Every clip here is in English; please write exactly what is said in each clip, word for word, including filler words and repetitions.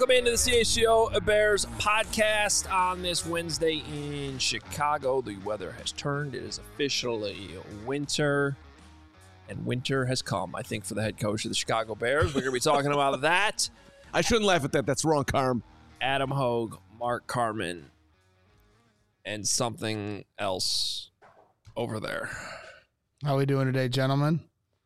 Welcome into the C H G O Bears podcast on this Wednesday in Chicago. The weather has turned. It is officially winter, and winter has come, I think, for the head coach of the Chicago Bears. We're going to be talking about that. I shouldn't laugh at that. That's wrong, Carm. Adam Hogue, Mark Carman, and something else over there. How are we doing today, gentlemen?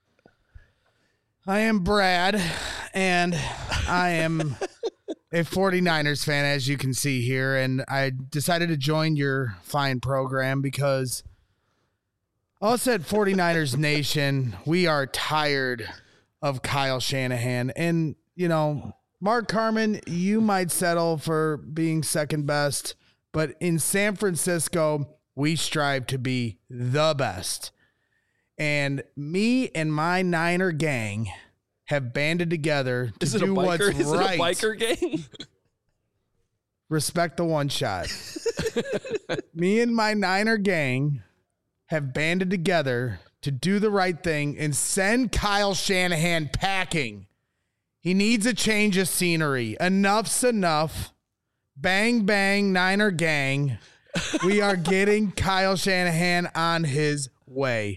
I am Brad, and I am a 49ers fan, as you can see here, and I decided to join your fine program because us at 49ers Nation, we are tired of Kyle Shanahan. And, you know, Mark Carman, you might settle for being second best, but in San Francisco, we strive to be the best. And me and my Niner gang have banded together to Is it do a biker? what's Is right. it a biker gang? Respect the one shot. Me and my Niner gang have banded together to do the right thing and send Kyle Shanahan packing. He needs a change of scenery. Enough's enough. Bang, bang, Niner gang. We are getting Kyle Shanahan on his way.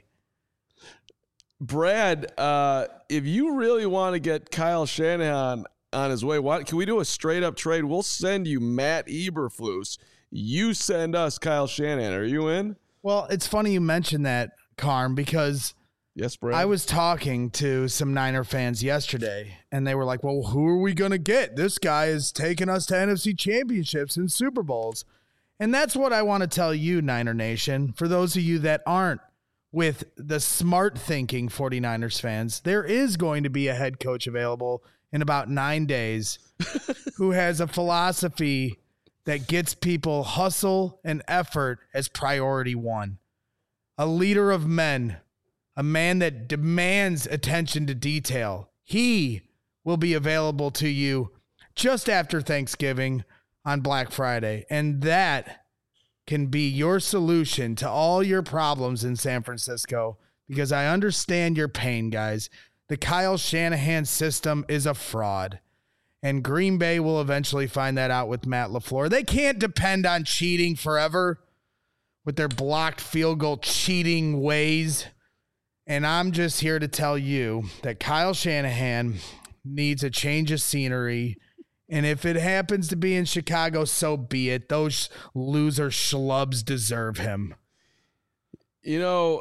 Brad, uh, if you really want to get Kyle Shanahan on his way, why, can we do a straight-up trade? We'll send you Matt Eberflus. You send us Kyle Shanahan. Are you in? Well, it's funny you mentioned that, Carm, because yes, Brad. I was talking to some Niner fans yesterday, and they were like, well, who are we going to get? This guy is taking us to N F C championships and Super Bowls. And that's what I want to tell you, Niner Nation, for those of you that aren't with the smart thinking 49ers fans, there is going to be a head coach available in about nine days who has a philosophy that gets people hustle and effort as priority one. A leader of men, a man that demands attention to detail. He will be available to you just after Thanksgiving on Black Friday. And that can be your solution to all your problems in San Francisco, because I understand your pain, guys. The Kyle Shanahan system is a fraud, and Green Bay will eventually find that out with Matt LaFleur. They can't depend on cheating forever with their blocked field goal cheating ways. And I'm just here to tell you that Kyle Shanahan needs a change of scenery. And if it happens to be in Chicago, so be it. Those loser schlubs deserve him. You know,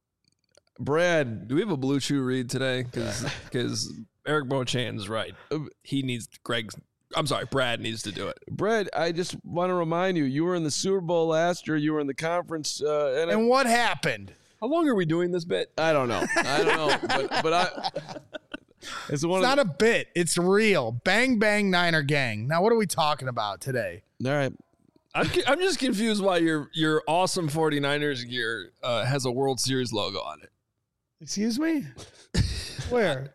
Brad. Do we have a Blue Chew read today? Because Eric Beauchamp's right. He needs Greg's. I'm sorry, Brad needs to do it. Brad, I just want to remind you, you were in the Super Bowl last year. You were in the conference. Uh, and, and what happened? How long are we doing this bit? I don't know. I don't know. but, but I... It's, one it's not the, a bit. It's real. Bang, bang, Niner gang. Now, what are we talking about today? All right. I'm I'm just confused why your your awesome 49ers gear uh, has a World Series logo on it. Excuse me? Where?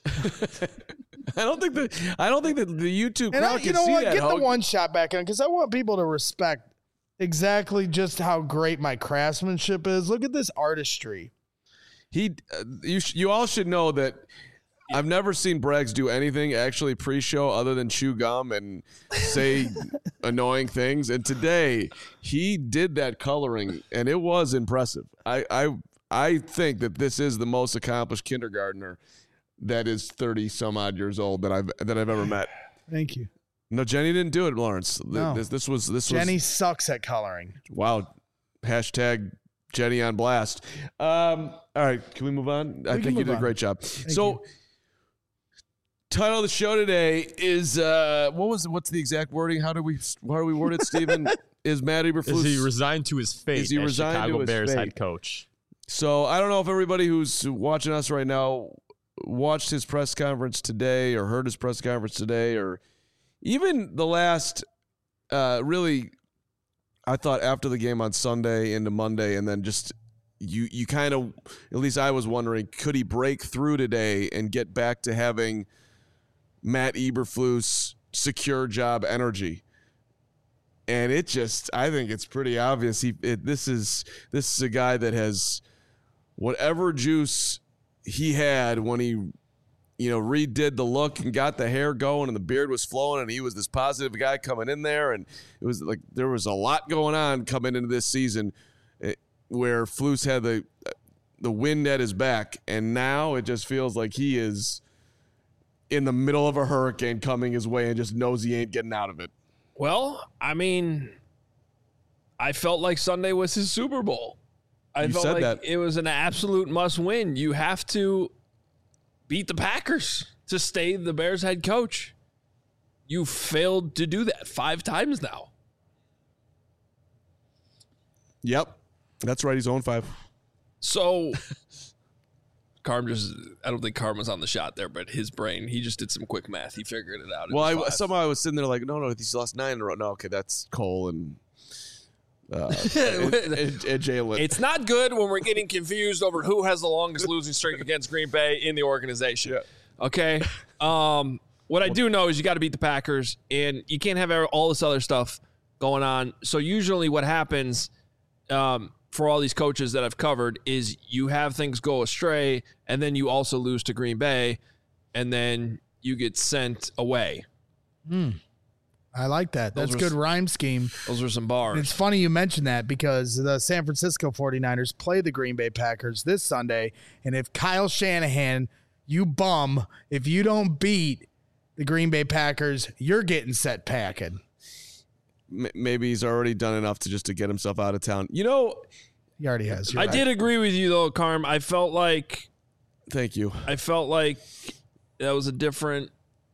I don't think that I don't think that the YouTube crowd I, can you know see what? that. Get Hogue. the one shot back in, because I want people to respect exactly just how great my craftsmanship is. Look at this artistry. He, uh, you, sh- you all should know that. I've never seen Braggs do anything actually pre-show other than chew gum and say annoying things. And today he did that coloring, and it was impressive. I, I I think that this is the most accomplished kindergartner that is thirty some odd years old that I've that I've ever met. Thank you. No, Jenny didn't do it, Lawrence. No. This, this was this Jenny was, sucks at coloring. Wow. Hashtag Jenny on blast. Um, all right, can we move on? We I think you did on. a great job. Thank so. You. Title of the show today is uh, what was what's the exact wording? How do we how do we word it, Stephen? Is Matt Eberflus? Is he resigned to his fate is he as resigned Chicago to his Bears fate? head coach? So I don't know if everybody who's watching us right now watched his press conference today or heard his press conference today or even the last uh, really. I thought after the game on Sunday into Monday, and then just you you kind of at least I was wondering, could he break through today and get back to having Matt Eberflus secure job energy? And it just, I think it's pretty obvious. He, it, this is this is a guy that has whatever juice he had when he you know, redid the look and got the hair going and the beard was flowing and he was this positive guy coming in there. And it was like there was a lot going on coming into this season where Flus had the the wind at his back. And now it just feels like he is in the middle of a hurricane coming his way and just knows he ain't getting out of it. Well, I mean, I felt like Sunday was his Super Bowl. I You felt said like that. it was an absolute must win. You have to beat the Packers to stay the Bears head coach. You failed to do that five times now. Yep. That's right. He's oh and five. So, Carm just, I don't think Carm was on the shot there, but his brain, he just did some quick math. He figured it out. It Well, I, was five. somehow I was sitting there like, no, no, he's lost nine in a row. No, okay, that's Cole and, uh, and, and, and Jalen. It's not good when we're getting confused over who has the longest losing streak against Green Bay in the organization. Yeah. Okay. Um, what I do know is you got to beat the Packers, and you can't have all this other stuff going on. So usually what happens um, for all these coaches that I've covered is you have things go astray, and then you also lose to Green Bay, and then you get sent away. Hmm. I like that. Those That's were good s- rhyme scheme. Those are some bars. And it's funny you mentioned that because the San Francisco forty-niners play the Green Bay Packers this Sunday. And if Kyle Shanahan, you bum, if you don't beat the Green Bay Packers, you're getting set packing. M- maybe he's already done enough to just to get himself out of town. You know, He already has. You're I right. did agree with you, though, Carm. I felt like thank you. I felt like that was a different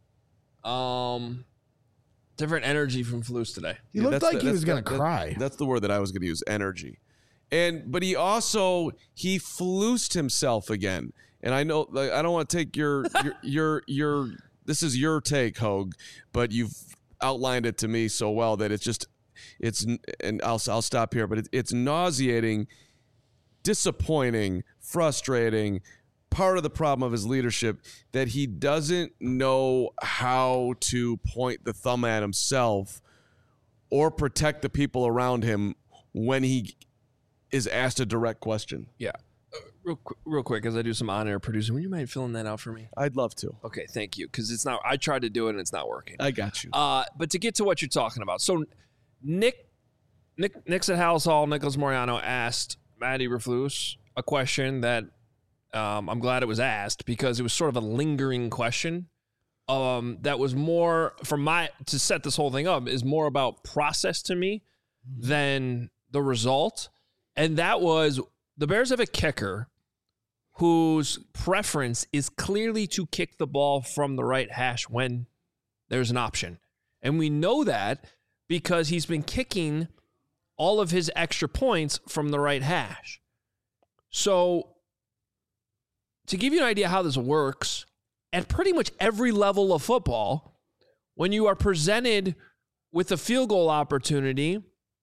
um different energy from Flus today. He Yeah, looked that's like the- he that's was going the- to that- cry. That's the word that I was going to use, energy. And but he also he flused himself again. And I know like, I don't want to take your your your your this is your take, Hogue, but you've outlined it to me so well that it's just it's and I'll I'll stop here, but it, it's nauseating, disappointing, frustrating. Part of the problem of his leadership that he doesn't know how to point the thumb at himself or protect the people around him when he is asked a direct question. Yeah. Uh, real qu- real quick, as I do some on-air producing, would you mind filling that out for me? I'd love to. Okay, thank you, because it's not. I tried to do it and it's not working. I got you. Uh, but to get to what you're talking about, so Nick, Nick, Nick's at Hallis Hall. Nicholas Moriano asked Matt Eberflus a question that um, I'm glad it was asked because it was sort of a lingering question. Um, that was more for my to set this whole thing up is more about process to me than the result, and that was the Bears have a kicker whose preference is clearly to kick the ball from the right hash when there's an option. And we know that because he's been kicking all of his extra points from the right hash. So to give you an idea how this works, at pretty much every level of football, when you are presented with a field goal opportunity,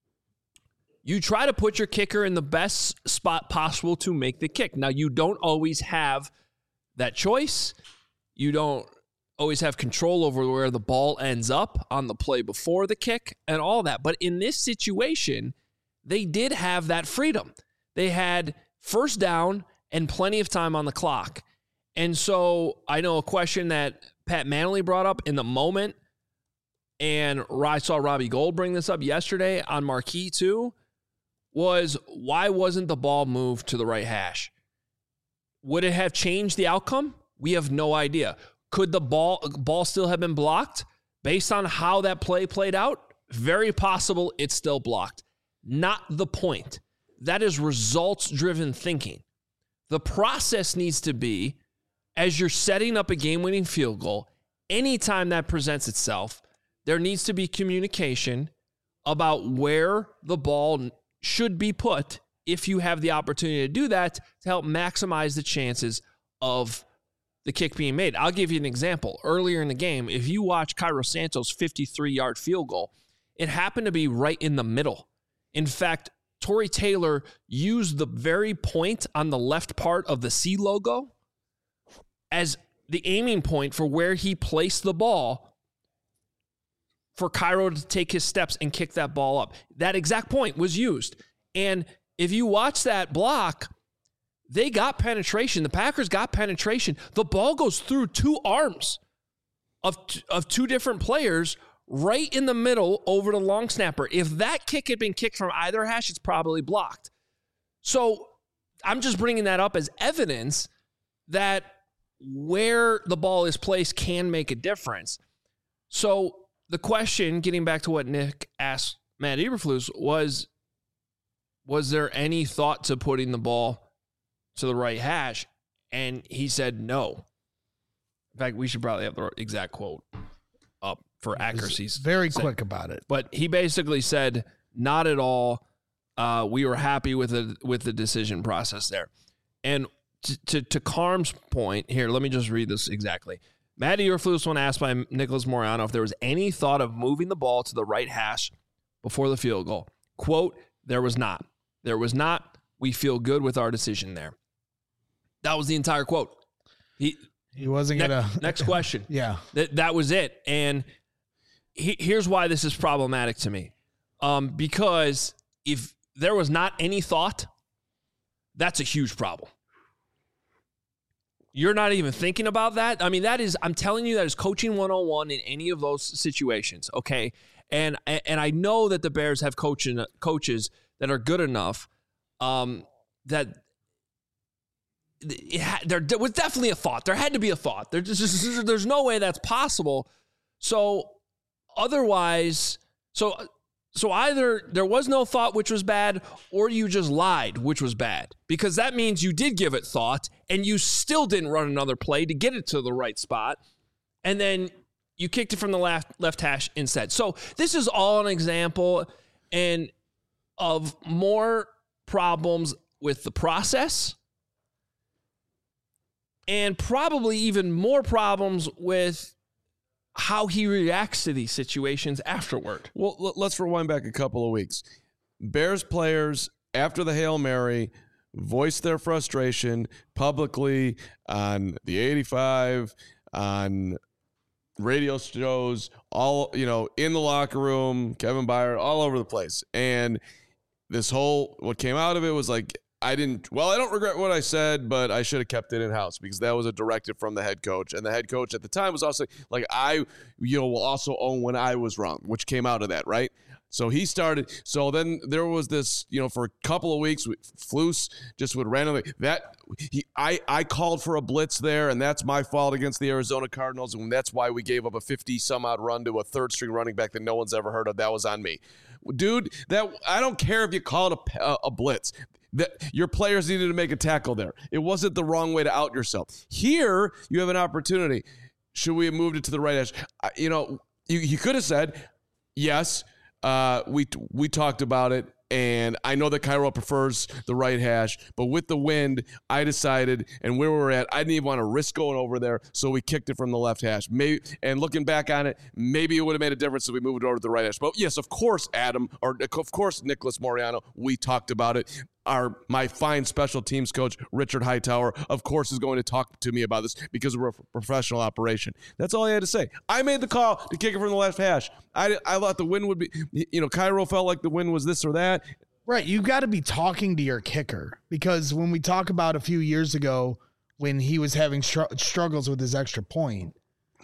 you try to put your kicker in the best spot possible to make the kick. Now, you don't always have that choice. You don't always have control over where the ball ends up on the play before the kick and all that. But in this situation, they did have that freedom. They had first down and plenty of time on the clock. And so I know a question that Pat Manley brought up in the moment, and I saw Robbie Gold bring this up yesterday on Marquee too, was why wasn't the ball moved to the right hash? Would it have changed the outcome? We have no idea. Could the ball ball still have been blocked based on how that play played out? Very possible it's still blocked. Not the point. That is results-driven thinking. The process needs to be, as you're setting up a game-winning field goal, anytime that presents itself, there needs to be communication about where the ball should be put if you have the opportunity to do that to help maximize the chances of the kick being made. I'll give you an example. Earlier in the game, if you watch Cairo Santos' fifty-three-yard field goal, it happened to be right in the middle. In fact, Torrey Taylor used the very point on the left part of the C logo as the aiming point for where he placed the ball for Cairo to take his steps and kick that ball up. That exact point was used. And if you watch that block, they got penetration. The Packers got penetration. The ball goes through two arms of, of two different players right in the middle over the long snapper. If that kick had been kicked from either hash, it's probably blocked. So I'm just bringing that up as evidence that where the ball is placed can make a difference. So the question, getting back to what Nick asked Matt Eberflus, was, was there any thought to putting the ball to the right hash? And he said no. In fact, we should probably have the exact quote up for accuracy's very sake. quick about it. But he basically said, not at all. Uh, we were happy with the with the decision process there. And to, to, to Carm's point, here, let me just read this exactly. Matt Eberflus, when asked by Nicholas Moreano if there was any thought of moving the ball to the right hash before the field goal, quote, there was not. There was not. We feel good with our decision there. That was the entire quote. He he wasn't ne- gonna. Next question. Yeah, that that was it. And he, here's why this is problematic to me, um, because if there was not any thought, that's a huge problem. You're not even thinking about that. I mean, that is, I'm telling you, that is coaching one oh one in any of those situations, okay? And and I know that the Bears have coaching, coaches that are good enough um, that it ha- there, there was definitely a thought. There had to be a thought. There just, there's no way that's possible. So otherwise, so so either there was no thought, which was bad, or you just lied, which was bad. Because that means you did give it thought, and you still didn't run another play to get it to the right spot, and then you kicked it from the left left hash instead. So this is all an example and of more problems with the process, and probably even more problems with how he reacts to these situations afterward. Well, l- let's rewind back a couple of weeks. Bears players, after the Hail Mary, voiced their frustration publicly on the eighty-five, on radio shows, all, you know, in the locker room, Kevin Byard, all over the place. And this whole, what came out of it was like, I didn't, well, I don't regret what I said, but I should have kept it in-house because that was a directive from the head coach. And the head coach at the time was also like, I, you know, will also own when I was wrong, which came out of that, right? So he started, so then there was this, you know, for a couple of weeks, Flus just would randomly, that, he, I, I called for a blitz there, and that's my fault against the Arizona Cardinals, and that's why we gave up a fifty-some-odd run to a third-string running back that no one's ever heard of. That was on me. Dude, that I don't care if you call it a, a blitz. That your players needed to make a tackle there. It wasn't the wrong way to out yourself. Here, you have an opportunity. Should we have moved it to the right edge? I, you know, you, you could have said, yes, uh, we we talked about it, and I know that Cairo prefers the right hash, but with the wind, I decided, and where we were at, I didn't even want to risk going over there, so we kicked it from the left hash. Maybe, and looking back on it, maybe it would have made a difference if we moved it over to the right hash. But yes, of course, Adam, or of course, Nicholas Moreano, we talked about it. Our my fine special teams coach, Richard Hightower, of course, is going to talk to me about this because we're a professional operation. That's all I had to say. I made the call to kick it from the left hash. I, I thought the win would be, you know, Cairo felt like the win was this or that. Right. You got to be talking to your kicker, because when we talk about a few years ago when he was having str- struggles with his extra point,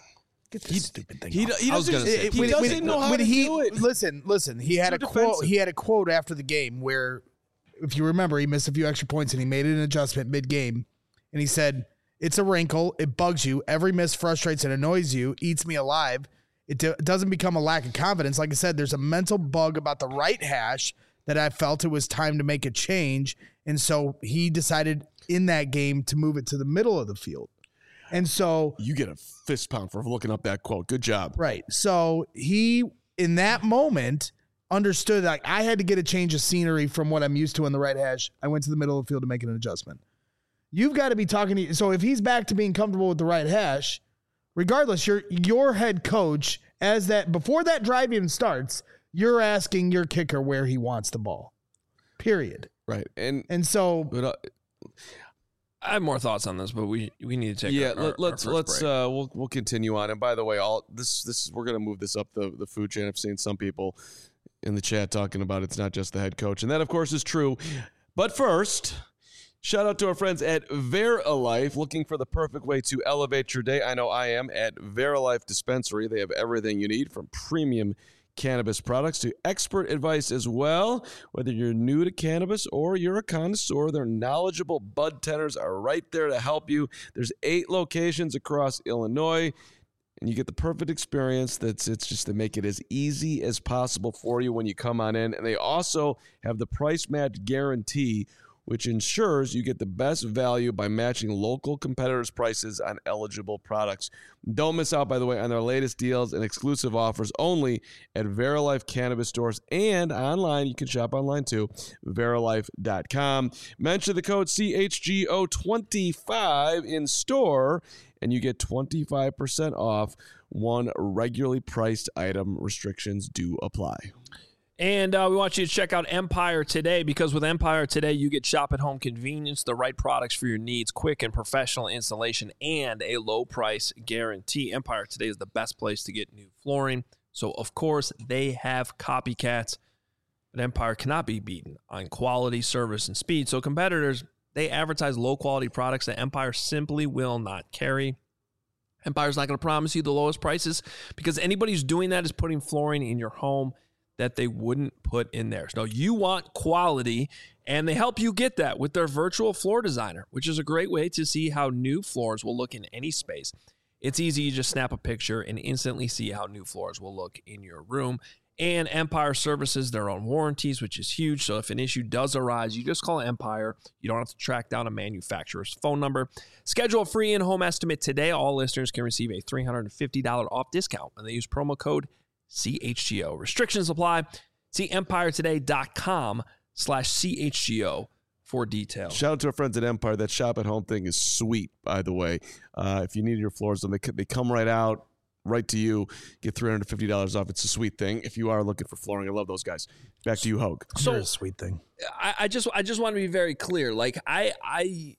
get this he, stupid thing he, off. he doesn't, say, he when, doesn't when, know how when to he, do it. Listen, listen. He had Too a quote. defensive. He had a quote after the game where, if you remember, he missed a few extra points and he made an adjustment mid-game, and he said, "It's a wrinkle. It bugs you. Every miss frustrates and annoys you. Eats me alive. It do- doesn't become a lack of confidence. Like I said, there's a mental bug about the right hash that I felt it was time to make a change, and so he decided in that game to move it to the middle of the field." And so You get a fist pound for looking up that quote. Good job. right. So he, in that moment, understood like I had to get a change of scenery from what I'm used to in the right hash. I went to the middle of the field to make an adjustment. You've got to be talking to, so if he's back to being comfortable with the right hash, regardless, your your head coach, as that before that drive even starts, you're asking your kicker where he wants the ball. Period. Right. And And so but, uh, I have more thoughts on this, but we, we need to take yeah, our, our, let, let's our first let's break. uh we'll we'll continue on. And by the way, all this this we're gonna move this up the the food chain. I've seen some people in the chat talking about it's not just the head coach, and that of course is true. But first, Shout out to our friends at Verilife, looking for the perfect way to elevate your day. I know I am at Verilife Dispensary. They have everything you need from premium cannabis products to expert advice as well. Whether you're new to cannabis or you're a connoisseur, their knowledgeable bud tenders are right there to help you. There's eight locations across Illinois, and you get the perfect experience. That's it's just to make it as easy as possible for you when you come on in. And they also have the price match guarantee, which ensures you get the best value by matching local competitors' prices on eligible products. Don't miss out, by the way, on their latest deals and exclusive offers only at Verilife Cannabis stores and online. You can shop online too, verilife dot com. Mention the code C H G O twenty-five in store, and you get twenty-five percent off one regularly priced item. Restrictions do apply. And uh, we want you to check out Empire Today, because with Empire Today, you get shop-at-home convenience, the right products for your needs, quick and professional installation, and a low-price guarantee. Empire Today is the best place to get new flooring. So, of course, they have copycats, but Empire cannot be beaten on quality, service, and speed. So competitors, they advertise low-quality products that Empire simply will not carry. Empire's not going to promise you the lowest prices, because anybody who's doing that is putting flooring in your home that they wouldn't put in there. So you want quality, and they help you get that with their virtual floor designer, which is a great way to see how new floors will look in any space. It's easy. You just snap a picture and instantly see how new floors will look in your room. And Empire services their own warranties, which is huge. So if an issue does arise, you just call Empire. You don't have to track down a manufacturer's phone number. Schedule a free in-home estimate today. All listeners can receive a three hundred fifty dollars off discount when they use promo code C H G O. Restrictions apply. See empiretoday.com slash CHGO for details. Shout out to our friends at Empire. That shop at home thing is sweet, by the way. Uh, if you need your floors done, they, they come right out, right to you. Get three hundred fifty dollars off. It's a sweet thing. If you are looking for flooring, I love those guys. Back to you, Hogue. So a sweet thing. I, I just I just want to be very clear. Like I I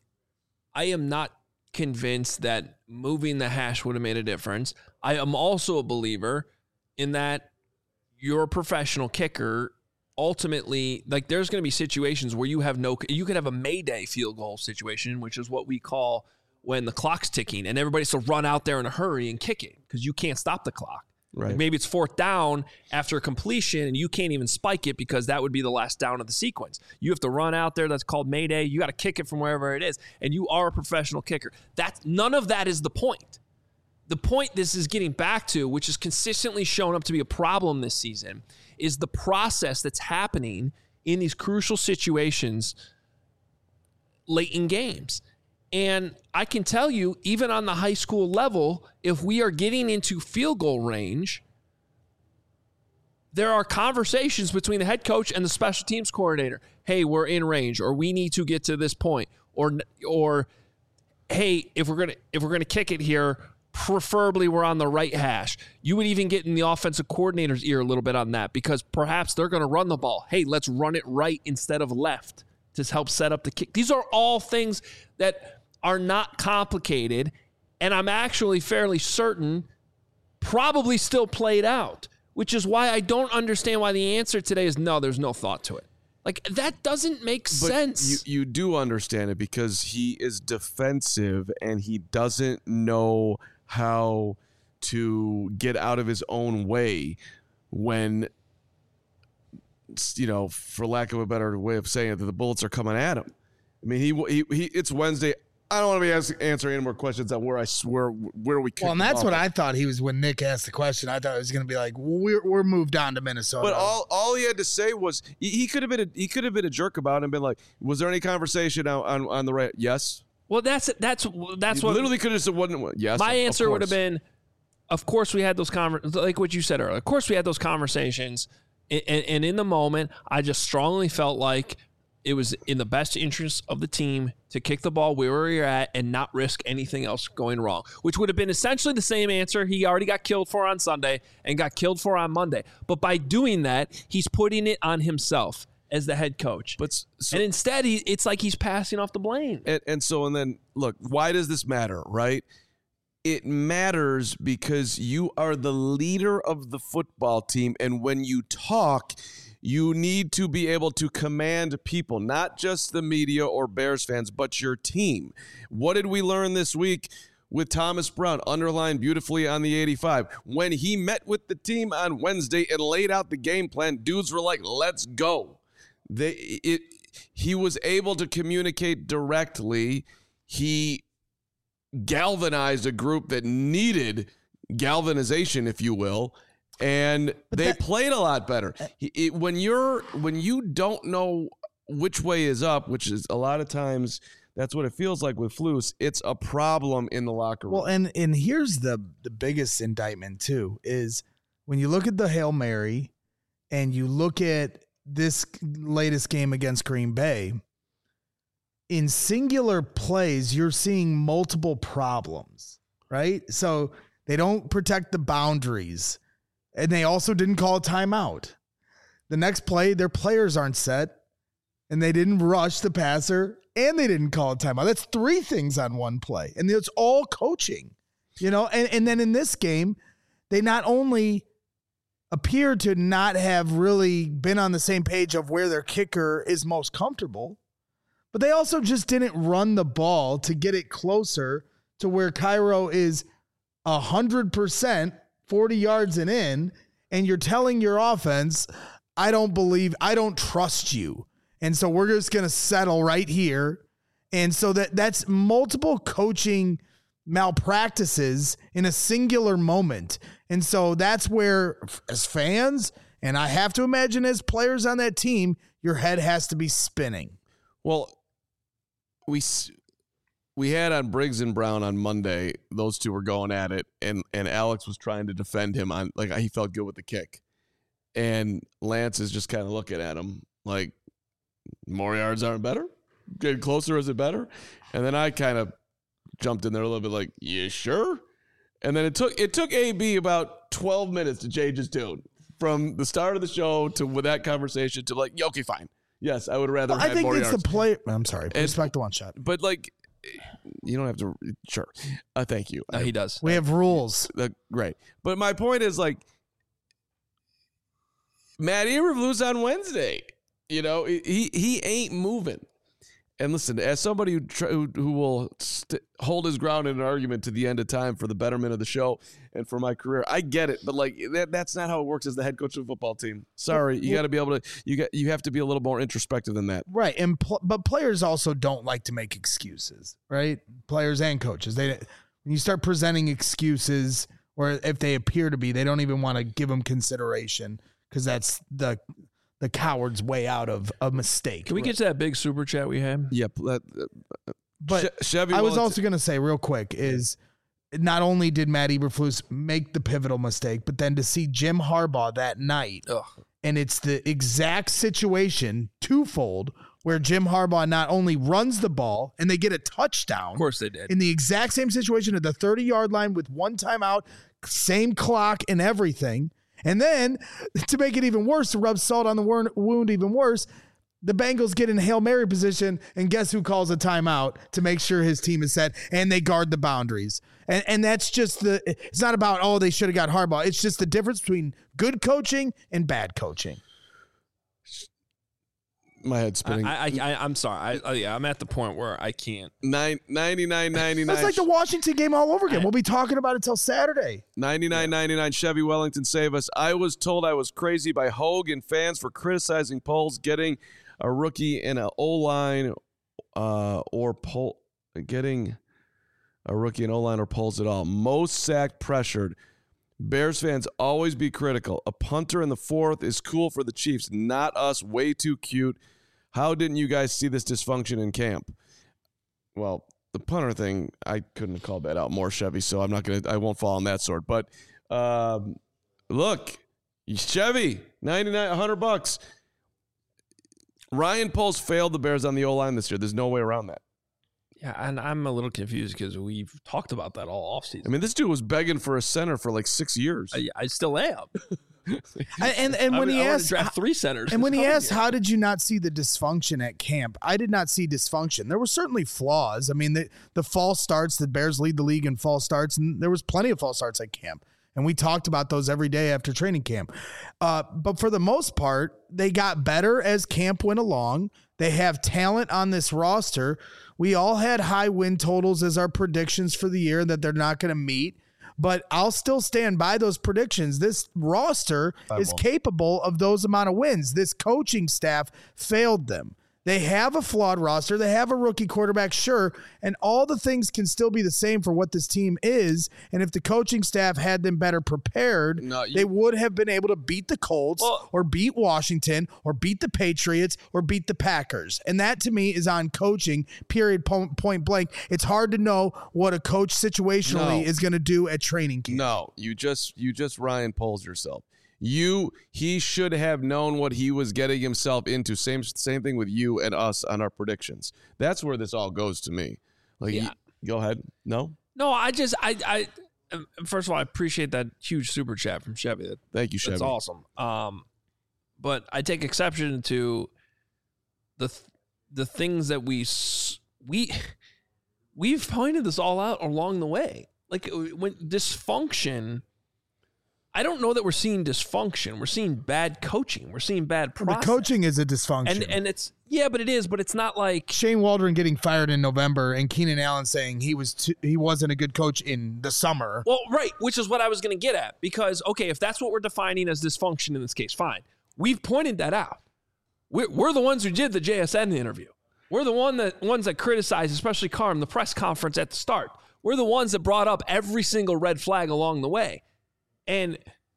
I am not convinced that moving the hash would have made a difference. I am also a believer in that you're a professional kicker. Ultimately, like there's going to be situations where you have no, you could have a Mayday field goal situation, which is what we call when the clock's ticking and everybody's to run out there in a hurry and kick it because you can't stop the clock. Right. Like maybe it's fourth down after a completion and you can't even spike it because that would be the last down of the sequence. You have to run out there. That's called Mayday. You got to kick it from wherever it is. And you are a professional kicker. That's none of that is the point. The point this is getting back to, which has consistently shown up to be a problem this season, is the process that's happening in these crucial situations late in games. And I can tell you, even on the high school level, if we are getting into field goal range, there are conversations between the head coach and the special teams coordinator. Hey, we're in range, or we need to get to this point, or or hey, if we're gonna if we're gonna kick it here, preferably we're on the right hash. You would even get in the offensive coordinator's ear a little bit on that because perhaps they're going to run the ball. Hey, let's run it right instead of left to help set up the kick. These are all things that are not complicated, and I'm actually fairly certain probably still played out, which is why I don't understand why the answer today is no, there's no thought to it. Like, that doesn't make but sense. You, you do understand it because he is defensive and he doesn't know how to get out of his own way when, you know, for lack of a better way of saying it, that the bullets are coming at him. I mean, he he, he it's Wednesday. I don't want to be ask, answering any more questions on where I swear where we. Well, and that's what I thought he was when Nick asked the question. I thought it was going to be like, well, we're we're moved on to Minnesota. But all all he had to say was he, he could have been a, he could have been a jerk about it and been like, was there any conversation on on, on the right? Yes. Well, that's that's that's he what literally could have said. Wasn't yes. My of, answer of would have been, of course we had those conver- like what you said earlier. Of course we had those conversations, and, and, and in the moment, I just strongly felt like it was in the best interest of the team to kick the ball where we were at and not risk anything else going wrong, which would have been essentially the same answer he already got killed for on Sunday and got killed for on Monday. But by doing that, he's putting it on himself as the head coach. But so, and instead, he, it's like he's passing off the blame. And, and so, and then, look, why does this matter, right? It matters because you are the leader of the football team, and when you talk, You need to be able to command people, not just the media or Bears fans, but your team. What did we learn this week with Thomas Brown, underlined beautifully on the eighty-five? When he met with the team on Wednesday and laid out the game plan, dudes were like, let's go. They, it, he was able to communicate directly. He galvanized a group that needed galvanization, if you will, and but they that, played a lot better. It, it, when you're when you don't know which way is up, which is a lot of times that's what it feels like with Flus, it's a problem in the locker room. Well, and and here's the the biggest indictment too is when you look at the Hail Mary and you look at this latest game against Green Bay, in singular plays, you're seeing multiple problems, right? So they don't protect the boundaries, and they also didn't call a timeout. The next play, their players aren't set, and they didn't rush the passer, and they didn't call a timeout. That's three things on one play, and it's all coaching, you know? And, and then in this game, they not only appear to not have really been on the same page of where their kicker is most comfortable, but they also just didn't run the ball to get it closer to where Cairo is one hundred percent forty yards and in, and you're telling your offense, I don't believe, I don't trust you. And so we're just going to settle right here. And so that that's multiple coaching malpractices in a singular moment. And so that's where, as fans, and I have to imagine as players on that team, your head has to be spinning. Well, we we had on Briggs and Brown on Monday. Those two were going at it, and and Alex was trying to defend him on, like, he felt good with the kick. And Lance is just kind of looking at him like, more yards aren't better? Getting closer, is it better? And then I kind of jumped in there a little bit like, yeah, sure. And then it took it took A B about twelve minutes to change his tune from the start of the show to with that conversation to like, yeah, okay, fine. Yes, I would rather well, have I think more it's yards. the play. I'm sorry. And, respect the one shot. But, like, you don't have to. Sure. Uh, thank you. No, he does. We have rules. Uh, great. But my point is, like, Matt Eberflus on Wednesday, you know, he he ain't moving. And listen, as somebody who tr- who, who will st- hold his ground in an argument to the end of time for the betterment of the show and for my career, I get it. But like that, that's not how it works as the head coach of a football team. Sorry, you got to be able to. You got you have to be a little more introspective than that. Right, and pl- but players also don't like to make excuses, right? Players and coaches. They when you start presenting excuses, or if they appear to be, they don't even want to give them consideration because that's the. The coward's way out of a mistake. Can we get to that big super chat we had? Yep. That, uh, but Ch- Chevy I was Wellington. also going to say real quick is not only did Matt Eberflus make the pivotal mistake, but then to see Jim Harbaugh that night, Ugh. and it's the exact situation twofold where Jim Harbaugh not only runs the ball and they get a touchdown. Of course they did. In the exact same situation at the thirty-yard line with one timeout, same clock and everything. And then, to make it even worse, to rub salt on the wound even worse, the Bengals get in Hail Mary position, and guess who calls a timeout to make sure his team is set, and they guard the boundaries. And and that's just the – it's not about, oh, they should have got Harbaugh. It's just the difference between good coaching and bad coaching. My head's spinning. I, I, I, I'm sorry. I, I, yeah, I'm at the point where I can't. Nine, ninety-nine ninety-nine. It's like the Washington game all over again. We'll be talking about it till Saturday. ninety-nine ninety-nine Chevy Wellington, save us. I was told I was crazy by Hogue and fans for criticizing Poles getting a rookie in an O-line uh, or Pol- getting a rookie in O-line or Poles at all. Most sacked pressured. Bears fans always be critical. A punter in the fourth is cool for the Chiefs, not us. Way too cute. How didn't you guys see this dysfunction in camp? Well, the punter thing, I couldn't have called that out more, Chevy, so I'm not going to, I won't fall on that sword. But um, look, Chevy, ninety-nine, one hundred bucks. Ryan Poles failed the Bears on the O-line this year. There's no way around that. Yeah, and I'm a little confused because we've talked about that all offseason. I mean, this dude was begging for a center for like six years. I, I still am. and and, and when I, he I asked, draft three centers, and when he asked, year. how did you not see the dysfunction at camp? I did not see dysfunction. There were certainly flaws. I mean, the the false starts. The Bears lead the league in false starts, and there was plenty of false starts at camp. And we talked about those every day after training camp. Uh, but for the most part, they got better as camp went along. They have talent on this roster. We all had high win totals as our predictions for the year that they're not going to meet. But I'll still stand by those predictions. This roster I is won't. capable of those amount of wins. This coaching staff failed them. They have a flawed roster. They have a rookie quarterback, sure, and all the things can still be the same for what this team is. And if the coaching staff had them better prepared, No, you- they would have been able to beat the Colts Well- or beat Washington or beat the Patriots or beat the Packers. And that, to me, is on coaching, period, po- point blank. It's hard to know what a coach situationally No. is going to do at training camp. No, you just you just Ryan Poles yourself. You he should have known what he was getting himself into. Same same thing with you and us on our predictions. That's where this all goes to me. Like, Yeah. you- go ahead. No, No, I just I I um, first of all I appreciate that huge super chat from Chevy. That, thank you, Chevy. that's awesome. Um, but I take exception to the th- the things that we s- we we've pointed this all out along the way. Like when dysfunction. I don't know that we're seeing dysfunction. We're seeing bad coaching. We're seeing bad The process. coaching is a dysfunction. and and it's yeah, but it is. But it's not like Shane Waldron getting fired in November and Keenan Allen saying he was too, he wasn't a good coach in the summer. well, right, which is what I was going to get at. Because okay, if that's what we're defining as dysfunction in this case, fine. We've pointed that out. We're, we're the ones who did the J S N interview. We're the one that ones that criticized, especially Carm, the press conference at the start. We're the ones that brought up every single red flag along the way. And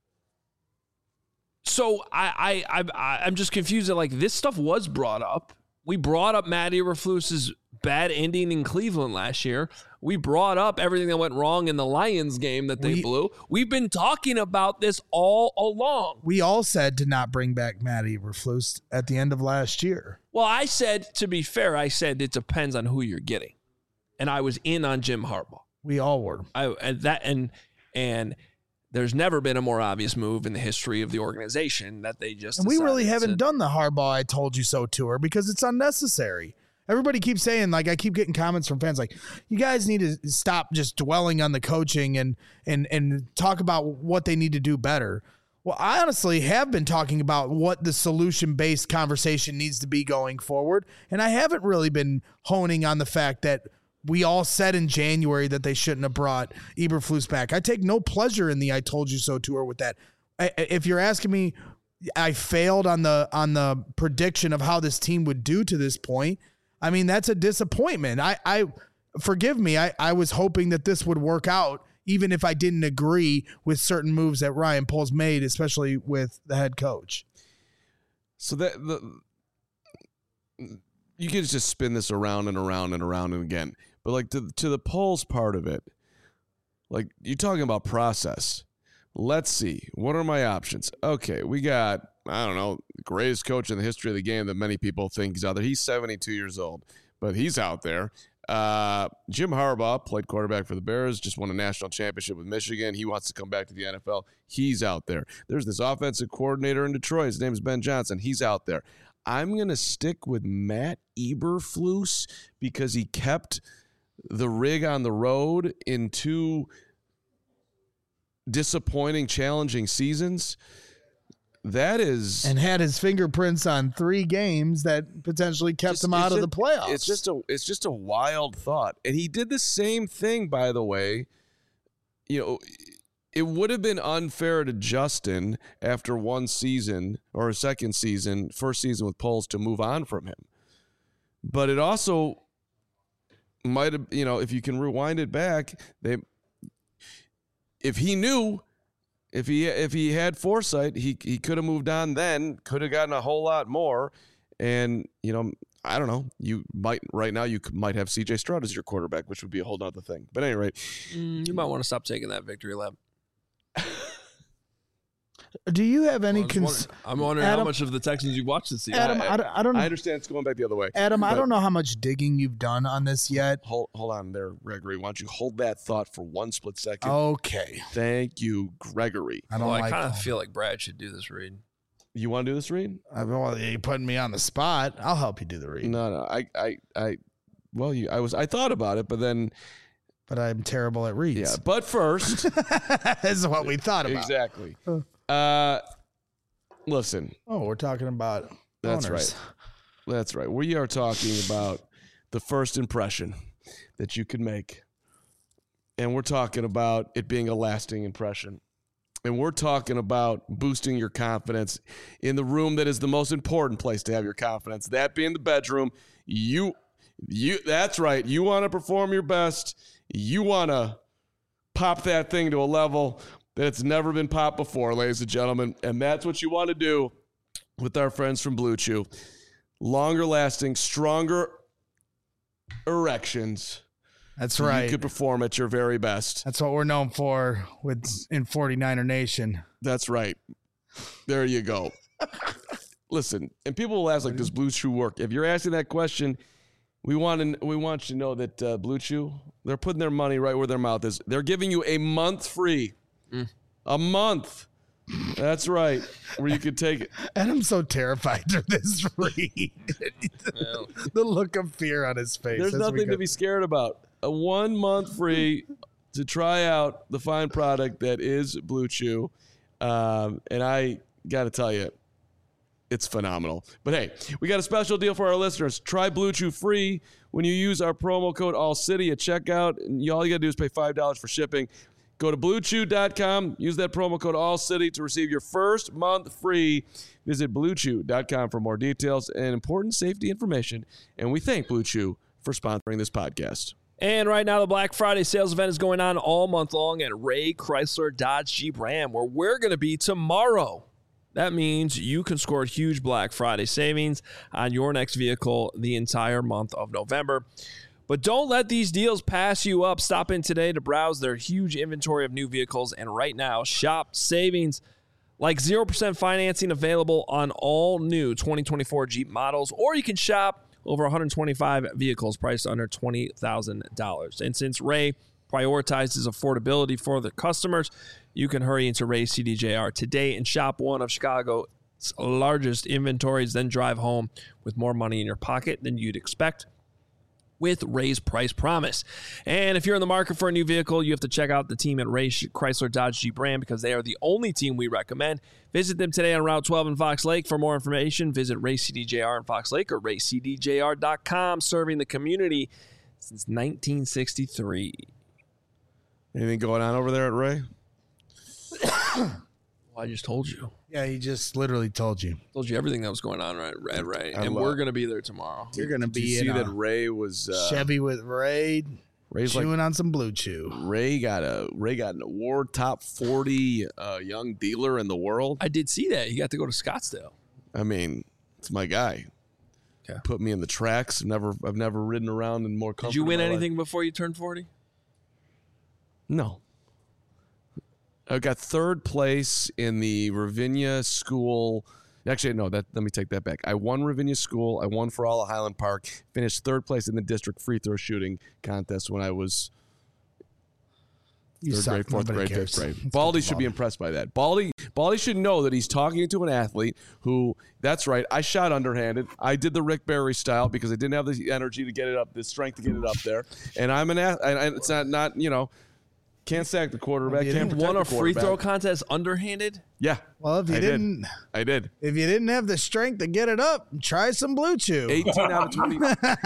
so I, I, I, I'm just confused that like this stuff was brought up. We brought up Matt Eberflus's bad ending in Cleveland last year. We brought up everything that went wrong in the Lions game that they We- blew. We've been talking about this all along. We all said to not bring back Matt Eberflus at the end of last year. Well, I said, to be fair, I said it depends on who you're getting. And I was in on Jim Harbaugh. We all were. I and that and and there's never been a more obvious move in the history of the organization that they just And we really decided haven't to- done the Harbaugh I told you so tour because it's unnecessary. Everybody keeps saying, like, I keep getting comments from fans like, you guys need to stop just dwelling on the coaching and and and talk about what they need to do better. Well, I honestly have been talking about what the solution-based conversation needs to be going forward, and I haven't really been honing on the fact that we all said in January that they shouldn't have brought Eberflus back. I take no pleasure in the I told you so tour with that. I, if you're asking me, I failed on the on the prediction of how this team would do to this point. I mean, that's a disappointment. I, I forgive me. I, I was hoping that this would work out, even if I didn't agree with certain moves that Ryan Poles made, especially with the head coach. So that the you can just spin this around and around and around and again. But like to to the polls part of it, like you're talking about process. Let's see. What are my options? Okay, we got, I don't know, the greatest coach in the history of the game that many people think is out there. He's seventy-two years old, but he's out there. Uh, Jim Harbaugh played quarterback for the Bears, just won a national championship with Michigan. He wants to come back to the N F L. He's out there. There's this offensive coordinator in Detroit. His name is Ben Johnson. He's out there. I'm going to stick with Matt Eberflus because he kept the rig on the road in two disappointing, challenging seasons. That is, And had his fingerprints on three games that potentially kept just- him it's out of the just- playoffs. It's just a it's just a wild thought. And he did the same thing, by the way. You know, it would have been unfair to Justin after one season or a second season, first season with Poles, to move on from him. But it also might have, you know, if you can rewind it back, they if he knew, if he if he had foresight, he he could have moved on then, could have gotten a whole lot more. And, you know, I don't know. You might right now you could, might have C J Stroud as your quarterback, which would be a whole nother thing. But at any rate, Mm, you might want to stop taking that victory lap. Do you have any I'm, just cons- wondering, I'm wondering how Adam- much of the Texans you've watched this season. Adam, I, don't- I don't I understand it's going back the other way. Adam, I but- don't know how much digging you've done on this yet. Hold, hold on there, Gregory. Why don't you hold that thought for one split second? Okay. Thank you, Gregory. I don't well, I like kind of feel like Brad should do this read. You want to do this read? I well, you're putting me on the spot. I'll help you do the read. No, no. I, I, I. Well, you, I was. I thought about it, but then but I'm terrible at reads. Yeah, but first. This is what we thought about. Exactly. Uh, listen. Oh, we're talking about That's owners. right. That's right. We are talking about the first impression that you can make. And we're talking about it being a lasting impression. And we're talking about boosting your confidence in the room that is the most important place to have your confidence, that being the bedroom. You, you. That's right. You want to perform your best. You want to pop that thing to a level that it's never been popped before, ladies and gentlemen. And that's what you want to do with our friends from Blue Chew. Longer lasting, stronger erections. That's so right. You could perform at your very best. That's what we're known for with in forty-niner Nation. That's right. There you go. Listen, and people will ask, like, does Blue Chew work? If you're asking that question, we want to we want you to know that uh, Blue Chew, they're putting their money right where their mouth is. They're giving you a month free. Mm. A month. That's right. Where you could take it. And I'm so terrified of this read. Well, The look of fear on his face. There's as nothing we go- to be scared about. A one month free to try out the fine product that is Blue Chew. Um, and I got to tell you, it's phenomenal. But hey, we got a special deal for our listeners. Try Blue Chew free when you use our promo code AllCity at checkout. And you, all you got to do is pay five dollars for shipping. Go to blue chew dot com. Use that promo code AllCity to receive your first month free. Visit blue chew dot com for more details and important safety information. And we thank Blue Chew for sponsoring this podcast. And right now, the Black Friday sales event is going on all month long at Ray Chrysler Dodge Jeep Ram, where we're going to be tomorrow. That means you can score huge Black Friday savings on your next vehicle the entire month of November. But don't let these deals pass you up. Stop in today to browse their huge inventory of new vehicles. And right now, shop savings like zero percent financing available on all new twenty twenty-four Jeep models, or you can shop over one hundred twenty-five vehicles priced under twenty thousand dollars. And since Ray prioritizes affordability for the customers, you can hurry into Ray C D J R today and shop one of Chicago's largest inventories, then drive home with more money in your pocket than you'd expect with Ray's Price Promise. And if you're in the market for a new vehicle, you have to check out the team at Ray Chrysler Dodge Jeep Ram because they are the only team we recommend. Visit them today on Route twelve in Fox Lake. For more information, visit Ray C D J R in Fox Lake or ray c d j r dot com, serving the community since nineteen sixty-three. Anything going on over there at Ray? Well, I just told you. Yeah, he just literally told you. Told you everything that was going on right, at Ray. I And love- we're going to be there tomorrow. You're going to Did you be see in that a Ray was uh, Chevy with Ray Ray's like chewing on some Blue Chew. Ray got a Ray got an award, top forty uh, young dealer in the world. I did see that. He got to go to Scottsdale. I mean, it's my guy. Okay. Put me in the tracks. I've never I've never ridden around in more comfort. Did you win in my life. anything before you turned forty? No. I got third place in the Ravinia School. Actually, no, that let me take that back. I won Ravinia School. I won for all of Highland Park. Finished third place in the district free throw shooting contest when I was You third suck. grade, fourth Nobody grade, cares. fifth grade. Let's Baldy get to should be Baldy. impressed by that. Baldy, Baldy should know that he's talking to an athlete who, that's right, I shot underhanded. I did the Rick Barry style because I didn't have the energy to get it up, the strength to get it up there. And I'm an athlete. It's not, not, you know, can't sack the quarterback. You Can't didn't protect Won a the free quarterback. throw contest underhanded? Yeah. Well, if you I didn't, did. I did. if you didn't have the strength to get it up, try some Blue Chew. eighteen out of twenty.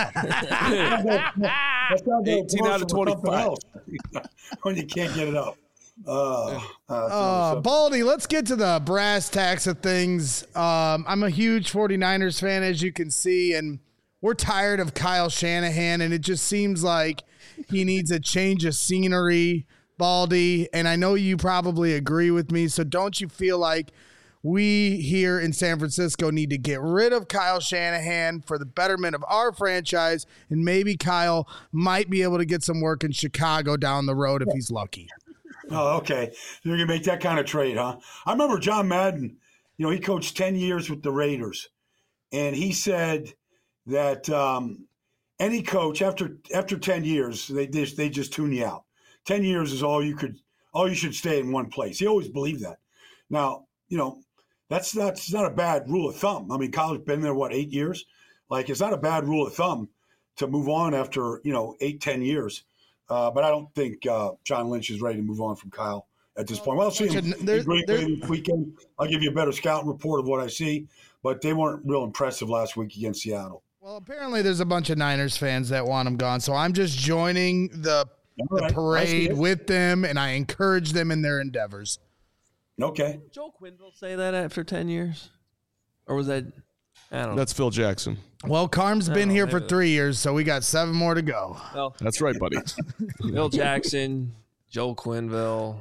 eighteen out of twenty-five. When you can't get it up. Uh, uh, Uh, Baldy, let's get to the brass tacks of things. Um, I'm a huge 49ers fan, as you can see, and we're tired of Kyle Shanahan, and it just seems like he needs a change of scenery, Baldy. And I know you probably agree with me, so don't you feel like we here in San Francisco need to get rid of Kyle Shanahan for the betterment of our franchise, and maybe Kyle might be able to get some work in Chicago down the road if he's lucky. Oh, okay. You're going to make that kind of trade, huh? I remember John Madden, you know, he coached ten years with the Raiders. And he said that um, any coach, after after ten years, they just, they just tune you out. ten years is all you could, all you should stay in one place. He always believed that. Now, you know, that's not, it's not a bad rule of thumb. I mean, Kyle's been there, what, eight years? Like, it's not a bad rule of thumb to move on after, you know, eight, ten years. Uh, but I don't think uh, John Lynch is ready to move on from Kyle at this point. Well, I'll see him in Green Bay this weekend. I'll give you a better scouting report of what I see. But they weren't real impressive last week against Seattle. Well, apparently there's a bunch of Niners fans that want him gone. So I'm just joining the, right. the parade with them, and I encourage them in their endeavors. Okay. Did Joe Quenneville say that after ten years? Or was that – I don't know. That's Phil Jackson. Well, Carm's been here for three years, so we got seven more to go. Well, that's right, buddy. Phil Jackson, Joe Quenneville,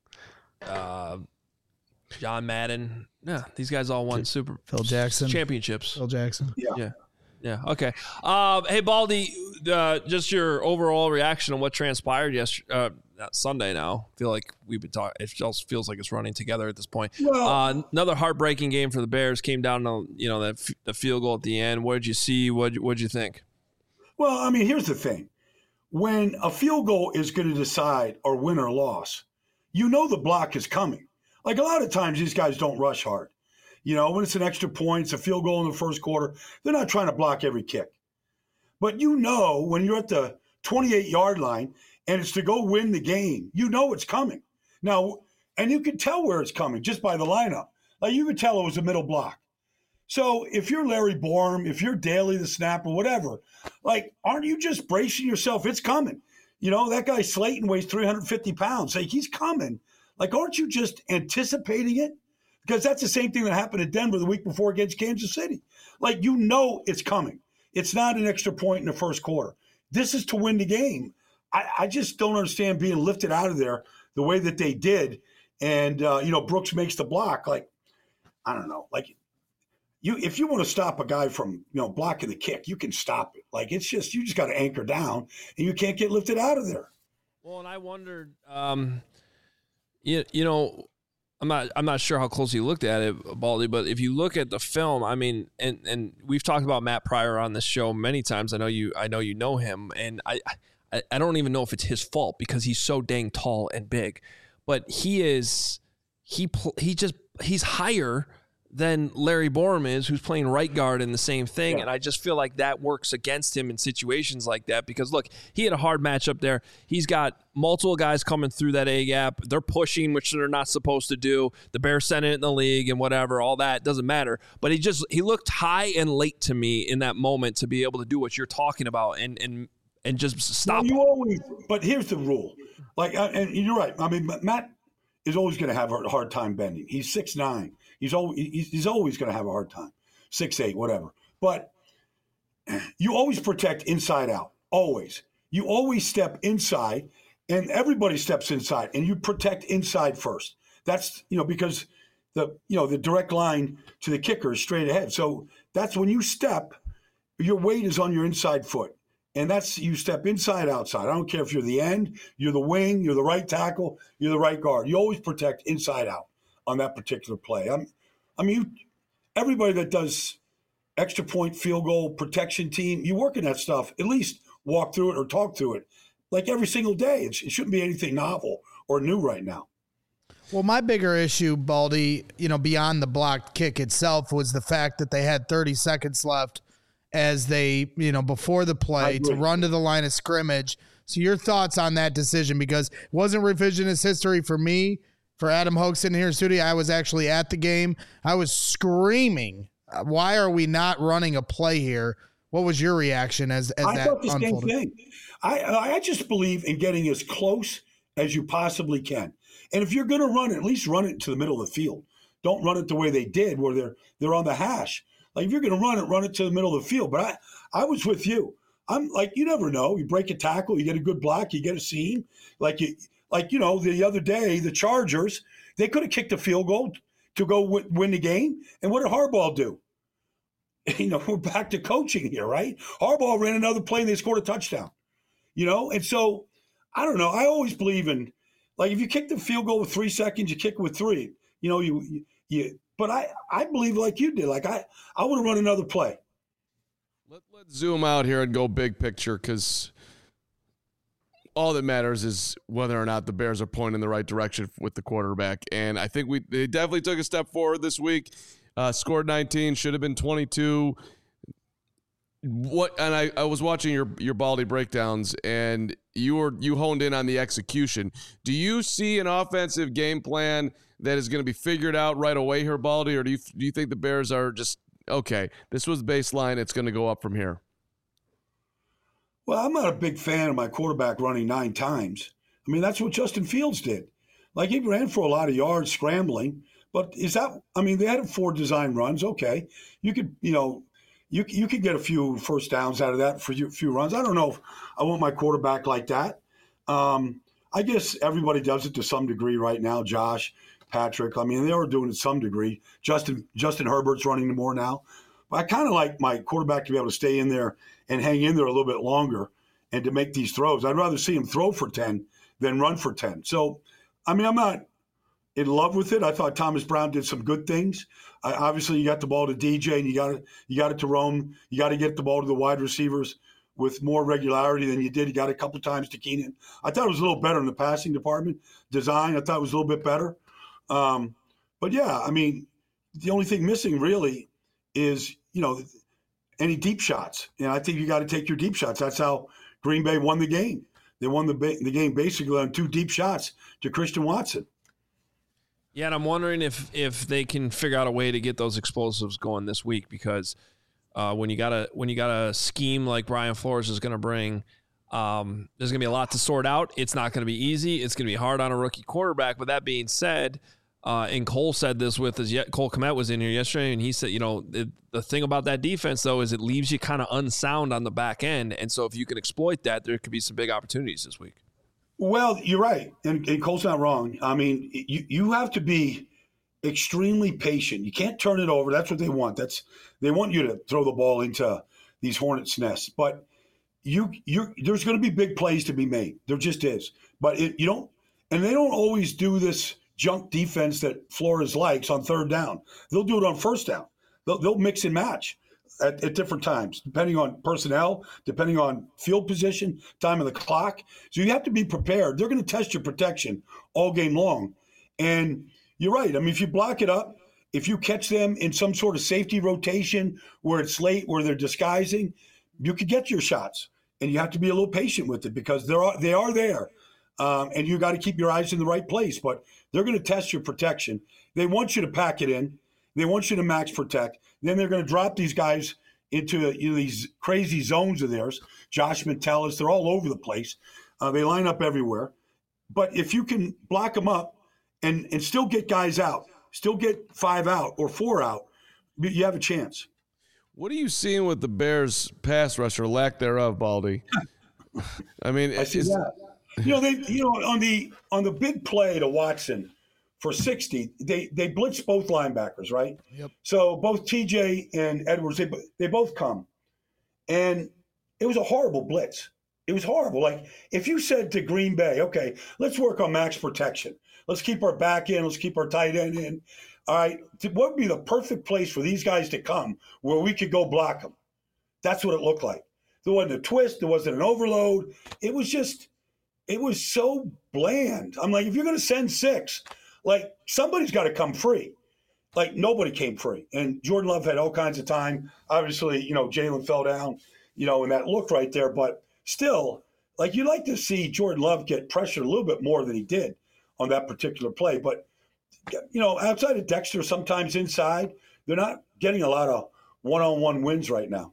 uh, John Madden. Yeah, these guys all won Super Phil Jackson championships. Phil Jackson. Yeah. Yeah. Yeah. Okay. Um, hey, Baldy, uh, just your overall reaction on what transpired yesterday, uh, Sunday now. I feel like we've been talking. It just feels like it's running together at this point. Well, uh, another heartbreaking game for the Bears. Came down to, you know, that f- the field goal at the end. What did you see? What What did you think? Well, I mean, here's the thing. When a field goal is going to decide or win or loss, you know the block is coming. Like a lot of times these guys don't rush hard. You know, when it's an extra point, it's a field goal in the first quarter, they're not trying to block every kick. But you know when you're at the twenty-eight-yard line and it's to go win the game, you know it's coming. Now, and you can tell where it's coming just by the lineup. Like you could tell it was a middle block. So if you're Larry Borum, if you're Daly the snapper, whatever, like aren't you just bracing yourself? It's coming. You know, that guy Slayton weighs three hundred fifty pounds. Like he's coming. Like aren't you just anticipating it? Because that's the same thing that happened at Denver the week before against Kansas City. Like, you know it's coming. It's not an extra point in the first quarter. This is to win the game. I, I just don't understand being lifted out of there the way that they did. And, uh, you know, Brooks makes the block. Like, I don't know. Like, you if you want to stop a guy from, you know, blocking the kick, you can stop it. Like, it's just, you just got to anchor down, and you can't get lifted out of there. Well, and I wondered, um, you, you know, I'm not I'm not sure how closely you looked at it, Baldy, but if you look at the film, I mean, and, and we've talked about Matt Pryor on this show many times. I know you I know you know him, and I, I I don't even know if it's his fault because he's so dang tall and big, but he is he he just he's higher than Larry Borum is, who's playing right guard in the same thing. Yeah. And I just feel like that works against him in situations like that because, look, he had a hard matchup there. He's got multiple guys coming through that A-gap. They're pushing, which they're not supposed to do. The Bears sent it in the league and whatever, all that. Doesn't matter. But he just he looked high and late to me in that moment to be able to do what you're talking about and and and just stop well, you always, but here's the rule. Like, and you're right. I mean, Matt is always going to have a hard time bending. He's six nine. He's always he's always going to have a hard time, six eight, whatever. But you always protect inside out, always. You always step inside, and everybody steps inside, and you protect inside first. That's you know because the you know the direct line to the kicker is straight ahead. So that's when you step, your weight is on your inside foot, and that's you step inside outside. I don't care if you're the end, you're the wing, you're the right tackle, you're the right guard. You always protect inside out on that particular play. I'm, I mean, you, everybody that does extra point, field goal, protection team, you work in that stuff, at least walk through it or talk through it like every single day. It, it shouldn't be anything novel or new right now. Well, my bigger issue, Baldy, you know, beyond the blocked kick itself was the fact that they had thirty seconds left as they, you know, before the play to run to the line of scrimmage. So your thoughts on that decision, because it wasn't revisionist history for me. For Adam Hoke sitting here in studio, I was actually at the game. I was screaming, why are we not running a play here? What was your reaction as, as I that thought the unfolded? Same thing. I, I just believe in getting as close as you possibly can. And if you're going to run it, at least run it to the middle of the field. Don't run it the way they did where they're they're on the hash. Like if you're going to run it, run it to the middle of the field. But I, I was with you. I'm like, you never know. You break a tackle, you get a good block, you get a seam. Like you – Like, you know, the other day, the Chargers, they could have kicked a field goal to go w- win the game. And what did Harbaugh do? You know, we're back to coaching here, right? Harbaugh ran another play and they scored a touchdown. You know, and so, I don't know. I always believe in, like, if you kick the field goal with three seconds, you kick with three. You know, you, you, you but I, I believe like you did. Like, I, I want to run another play. Let, let's zoom out here and go big picture because – all that matters is whether or not the Bears are pointing in the right direction with the quarterback. And I think we they definitely took a step forward this week. Uh, scored nineteen, should have been twenty-two. What and I, I was watching your your Baldy breakdowns, and you were you honed in on the execution. Do you see an offensive game plan that is going to be figured out right away here, Baldy, or do you do you think the Bears are just okay? This was the baseline; it's going to go up from here. Well, I'm not a big fan of my quarterback running nine times. I mean, that's what Justin Fields did. Like, he ran for a lot of yards scrambling, but is that? I mean, they had four design runs. Okay, you could you know. You you could get a few first downs out of that for a few runs. I don't know if I want my quarterback like that. Um, I guess everybody does it to some degree right now. Josh, Patrick. I mean, they are doing it to some degree. Justin Justin Herbert's running more now. But I kind of like my quarterback to be able to stay in there and hang in there a little bit longer and to make these throws. I'd rather see him throw for ten than run for ten. So, I mean, I'm not in love with it. I thought Thomas Brown did some good things. Uh, obviously, you got the ball to D J, and you got it. You got it to Rome. You got to get the ball to the wide receivers with more regularity than you did. You got it a couple times to Keenan. I thought it was a little better in the passing department. Design, I thought it was a little bit better. Um, but yeah, I mean, the only thing missing really is you know any deep shots, and I think you got to take your deep shots. That's how Green Bay won the game. They won the ba- the game basically on two deep shots to Christian Watson. Yeah, and I'm wondering if if they can figure out a way to get those explosives going this week, because uh, when you got a when you got a scheme like Brian Flores is going to bring, um, there's going to be a lot to sort out. It's not going to be easy. It's going to be hard on a rookie quarterback. But that being said, uh, and Cole said this with his Cole Kmet was in here yesterday, and he said, you know, the, the thing about that defense though is it leaves you kind of unsound on the back end, and so if you can exploit that, there could be some big opportunities this week. Well, you're right, and, and Cole's not wrong. I mean, you, you have to be extremely patient. You can't turn it over. That's what they want. That's they want you to throw the ball into these hornets' nests. But you, you, there's going to be big plays to be made. There just is. But it, you don't, and they don't always do this junk defense that Flores likes on third down. They'll do it on first down. They'll, they'll mix and match. At, at different times, depending on personnel, depending on field position, time of the clock. So you have to be prepared. They're going to test your protection all game long. And you're right. I mean, if you block it up, if you catch them in some sort of safety rotation where it's late, where they're disguising, you could get your shots. And you have to be a little patient with it because they're, they are there. Um, and you got to keep your eyes in the right place. But they're going to test your protection. They want you to pack it in. They want you to max protect. Then they're going to drop these guys into you know, these crazy zones of theirs. Josh Metellus, they're all over the place. Uh, they line up everywhere. But if you can block them up and, and still get guys out, still get five out or four out, you have a chance. What are you seeing with the Bears' pass rush or lack thereof, Baldy? I mean, I see is, that. You know, they you know on the on the big play to Watson for sixty, they they blitz both linebackers, right? Yep. So both T J and Edwards, they they both come, and it was a horrible blitz. It was horrible. Like if you said to Green Bay, okay, let's work on max protection. Let's keep our back in. Let's keep our tight end in. All right, what would be the perfect place for these guys to come where we could go block them? That's what it looked like. There wasn't a twist. There wasn't an overload. It was just, it was so bland. I'm like, if you're going to send six, like somebody's got to come free. Like nobody came free. And Jordan Love had all kinds of time. Obviously, you know, Jalen fell down, you know, and that look right there. But still, like you'd like to see Jordan Love get pressured a little bit more than he did on that particular play. But, you know, outside of Dexter, sometimes inside, they're not getting a lot of one-on-one wins right now.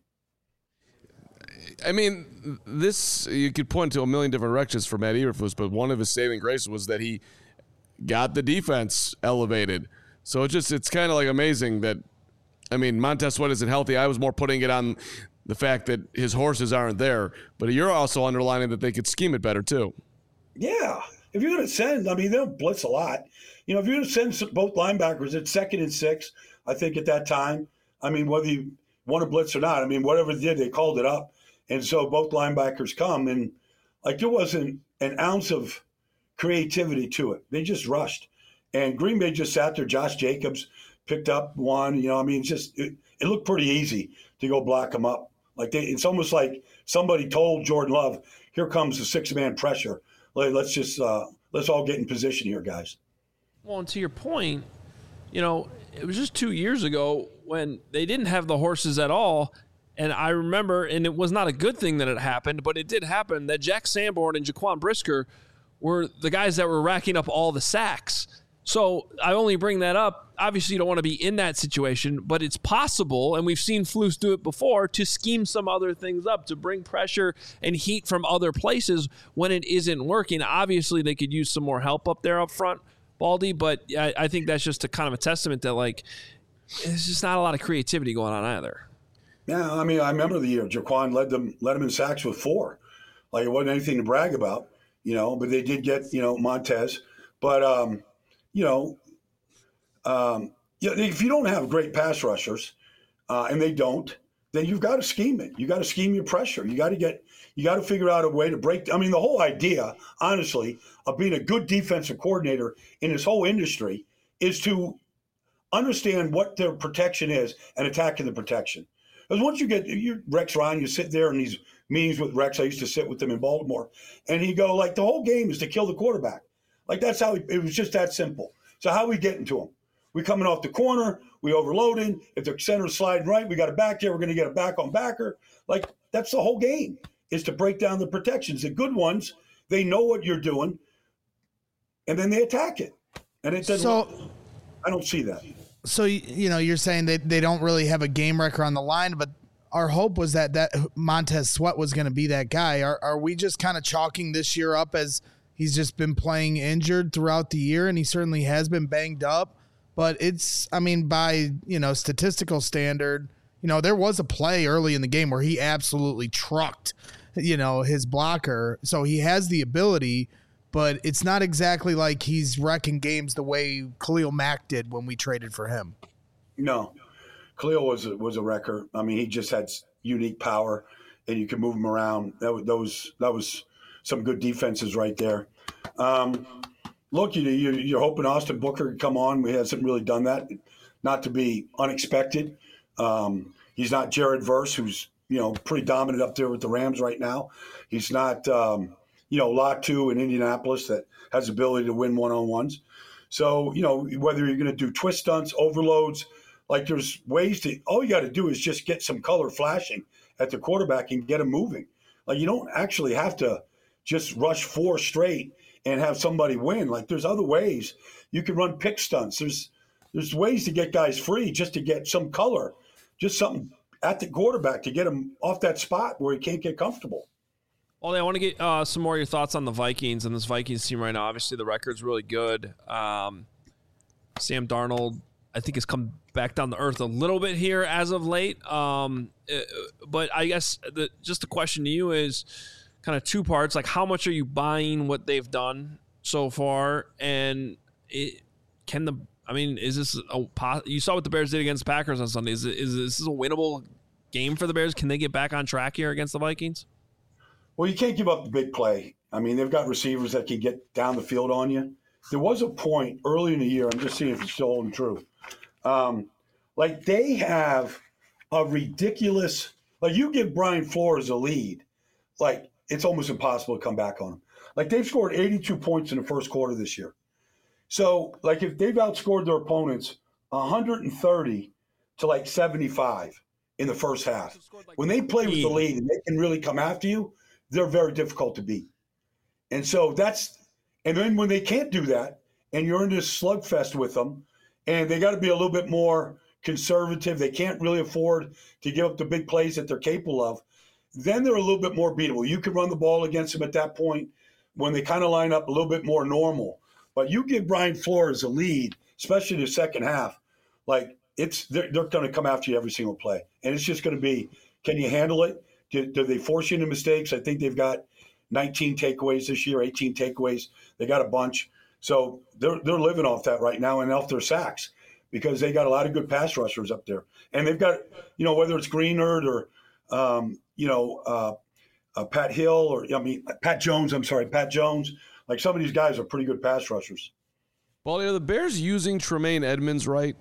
I mean, this, you could point to a million different directions for Matt Eberflus, but one of his saving graces was that he got the defense elevated. So it's just, it's kind of like amazing that, I mean, Montez Sweat isn't healthy. I was more putting it on the fact that his horses aren't there, but you're also underlining that they could scheme it better too. Yeah. If you're going to send, I mean, they'll blitz a lot. You know, if you're going to send both linebackers at second and six, I think at that time, I mean, whether you want to blitz or not, I mean, whatever they did, they called it up. And so both linebackers come, and like there wasn't an ounce of creativity to it. They just rushed. And Green Bay just sat there. Josh Jacobs picked up one. You know, I mean, it's just it, it looked pretty easy to go block them up. Like they, it's almost like somebody told Jordan Love, "Here comes the six-man pressure. Let's just uh, let's all get in position here, guys." Well, and to your point, you know, it was just two years ago when they didn't have the horses at all, And I remember, and it was not a good thing that it happened, but it did happen, that Jack Sanborn and Jaquan Brisker were the guys that were racking up all the sacks. So I only bring that up. Obviously, you don't want to be in that situation, but it's possible, and we've seen Flus do it before, to scheme some other things up, to bring pressure and heat from other places when it isn't working. Obviously, they could use some more help up there up front, Baldy, but I, I think that's just a kind of a testament that, like, there's just not a lot of creativity going on either. Yeah, I mean, I remember the year Jaquan led them led them in sacks with four. Like, it wasn't anything to brag about, you know, but they did get, you know, Montez. But, um, you know, um, you know, if you don't have great pass rushers, uh, and they don't, then you've got to scheme it. You got to scheme your pressure. You got to get, you got to figure out a way to break. I mean, the whole idea, honestly, of being a good defensive coordinator in this whole industry is to understand what their protection is and attacking the protection. Because once you get you Rex Ryan, you sit there in these meetings with Rex. I used to sit with him in Baltimore, and he go like, the whole game is to kill the quarterback. Like, that's how he, it was just that simple. So how are we getting to him? We coming off the corner, we overloading. If the center's sliding right, we got a back there. We're going to get a back on backer. Like, that's the whole game, is to break down the protections. The good ones, they know what you're doing, and then they attack it. And it doesn't. So, I don't see that. So, you know, you're saying that they don't really have a game wrecker on the line, but our hope was that that Montez Sweat was going to be that guy. Are are we just kind of chalking this year up as he's just been playing injured throughout the year, and he certainly has been banged up? But it's, I mean, by, you know, statistical standard, you know, there was a play early in the game where he absolutely trucked, you know, his blocker. So he has the ability, but it's not exactly like he's wrecking games the way Khalil Mack did when we traded for him. No, Khalil was a, was a wrecker. I mean, he just had unique power, and you could move him around. That was, those, that was some good defenses right there. Um, look, you, you, you're hoping Austin Booker could come on. We hasn't really done that, not to be unexpected. Um, he's not Jared Verse, who's, you know, pretty dominant up there with the Rams right now. He's not, um, you know, Latu in Indianapolis that has the ability to win one-on-ones. So, you know, whether you're going to do twist stunts, overloads, like there's ways to – all you got to do is just get some color flashing at the quarterback and get him moving. Like, you don't actually have to just rush four straight and have somebody win. Like, there's other ways. You can run pick stunts. There's there's ways to get guys free just to get some color, just something at the quarterback to get him off that spot where he can't get comfortable. Ollie, I want to get uh, some more of your thoughts on the Vikings and this Vikings team right now. Obviously, the record's really good. Um, Sam Darnold, I think, has come back down to earth a little bit here as of late. Um, but I guess the, just the question to you is kind of two parts. Like, how much are you buying what they've done so far? And it, can the – I mean, is this a – you saw what the Bears did against the Packers on Sunday. Is, it, is this a winnable game for the Bears? Can they get back on track here against the Vikings? Well, you can't give up the big play. I mean, they've got receivers that can get down the field on you. There was a point early in the year, I'm just seeing if it's still holding true. Um, like, they have a ridiculous – like, you give Brian Flores a lead, like, it's almost impossible to come back on him. Like, they've scored eighty-two points in the first quarter this year. So, like, if they've outscored their opponents one hundred thirty to, like, seventy-five in the first half, when they play with the lead and they can really come after you, they're very difficult to beat. And so that's – and then when they can't do that and you're in this slugfest with them and they got to be a little bit more conservative, they can't really afford to give up the big plays that they're capable of, then they're a little bit more beatable. You can run the ball against them at that point when they kind of line up a little bit more normal. But you give Brian Flores a lead, especially in the second half, like it's they're, they're going to come after you every single play. And it's just going to be, can you handle it? Do, do they force you into mistakes? I think they've got nineteen takeaways this year, eighteen takeaways. They got a bunch. So they're they're living off that right now and off their sacks because they got a lot of good pass rushers up there. And they've got, you know, whether it's Greenard or, um, you know, uh, uh, Pat Hill or, I mean, Pat Jones, I'm sorry, Pat Jones. Like, some of these guys are pretty good pass rushers. Well, are the Bears using Tremaine Edmonds right?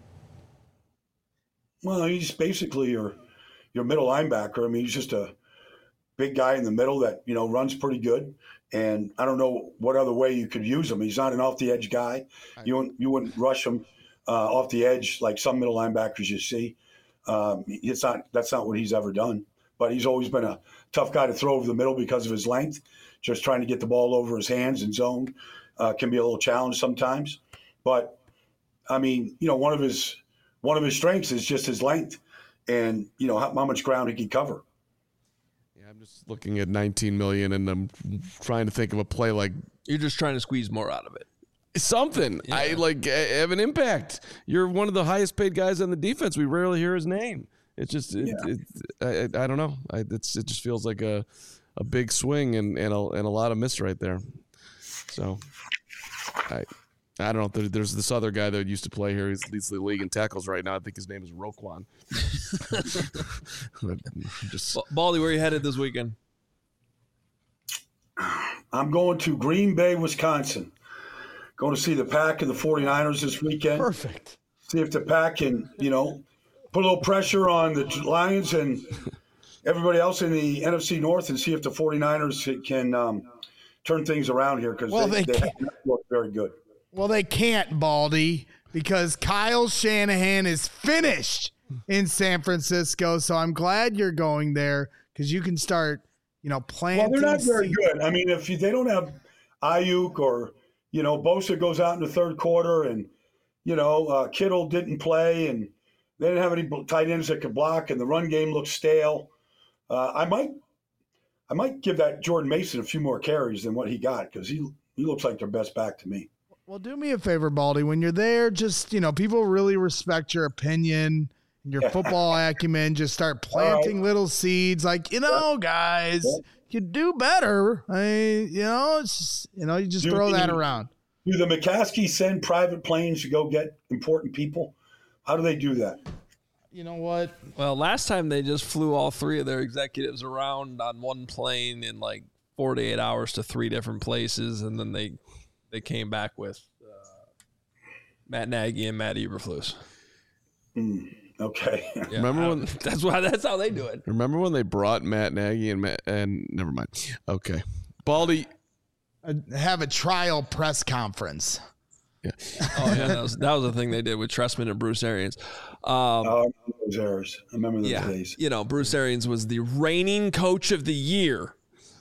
Well, he's basically your your middle linebacker. I mean, he's just a big guy in the middle that, you know, runs pretty good. And I don't know what other way you could use him. He's not an off-the-edge guy. You wouldn't, you wouldn't rush him uh, off the edge like some middle linebackers you see. Um, it's not that's not what he's ever done. But he's always been a tough guy to throw over the middle because of his length. Just trying to get the ball over his hands in zone uh, can be a little challenge sometimes. But I mean, you know, one of his one of his strengths is just his length, and you know how, how much ground he can cover. Yeah, I'm just looking at nineteen million, and I'm trying to think of a play like You're just trying to squeeze more out of it. something. Yeah. I like uh, have an impact. You're one of the highest paid guys on the defense. We rarely hear his name. It's just, it, Yeah. it, I, I don't know. I, it's it just feels like a, a big swing and and a, and a lot of miss right there. So, I I don't know. There, there's this other guy that used to play here. He leads the league in tackles right now. I think his name is Roquan. just Baldy, where are you headed this weekend? I'm going to Green Bay, Wisconsin. Going to see the Pack and the 49ers this weekend. Perfect. See if the Pack can, you know, put a little pressure on the Lions and everybody else in the N F C North, and see if the 49ers can um, turn things around here, because Well, they, they they can't. have not looked very good. Well, they can't, Baldy, because Kyle Shanahan is finished in San Francisco. So I'm glad you're going there, because you can start, you know, planting. Well, they're not very seeds. good. I mean, if you, they don't have Ayuk, or, you know, Bosa goes out in the third quarter, and, you know, uh, Kittle didn't play, and they didn't have any tight ends that could block, and the run game looks stale. Uh, I might, I might give that Jordan Mason a few more carries than what he got, because he he looks like their best back to me. Well, do me a favor, Baldy. When you're there, just, you know, people really respect your opinion and your football acumen. Just start planting right. little seeds. Like, you know, guys, Yeah. you do better. I, you know, it's just, you know, you just Do throw that the- around. Do the McCaskey send private planes to go get important people? How do they do that? You know what? Well, last time they just flew all three of their executives around on one plane in like forty-eight hours to three different places, and then they they came back with uh, Matt Nagy and Matt Eberflus. Mm, okay. Yeah, Remember I when- don't- that's why that's how they do it. remember when they brought Matt Nagy and Matt, and never mind. Okay, Baldy. Uh, have a trial press conference. Yeah. Oh yeah, that was that was the thing they did with Trestman and Bruce Arians. Um, Oh, I remember those errors. I remember those yeah, days. you know, Bruce Arians was the reigning coach of the year,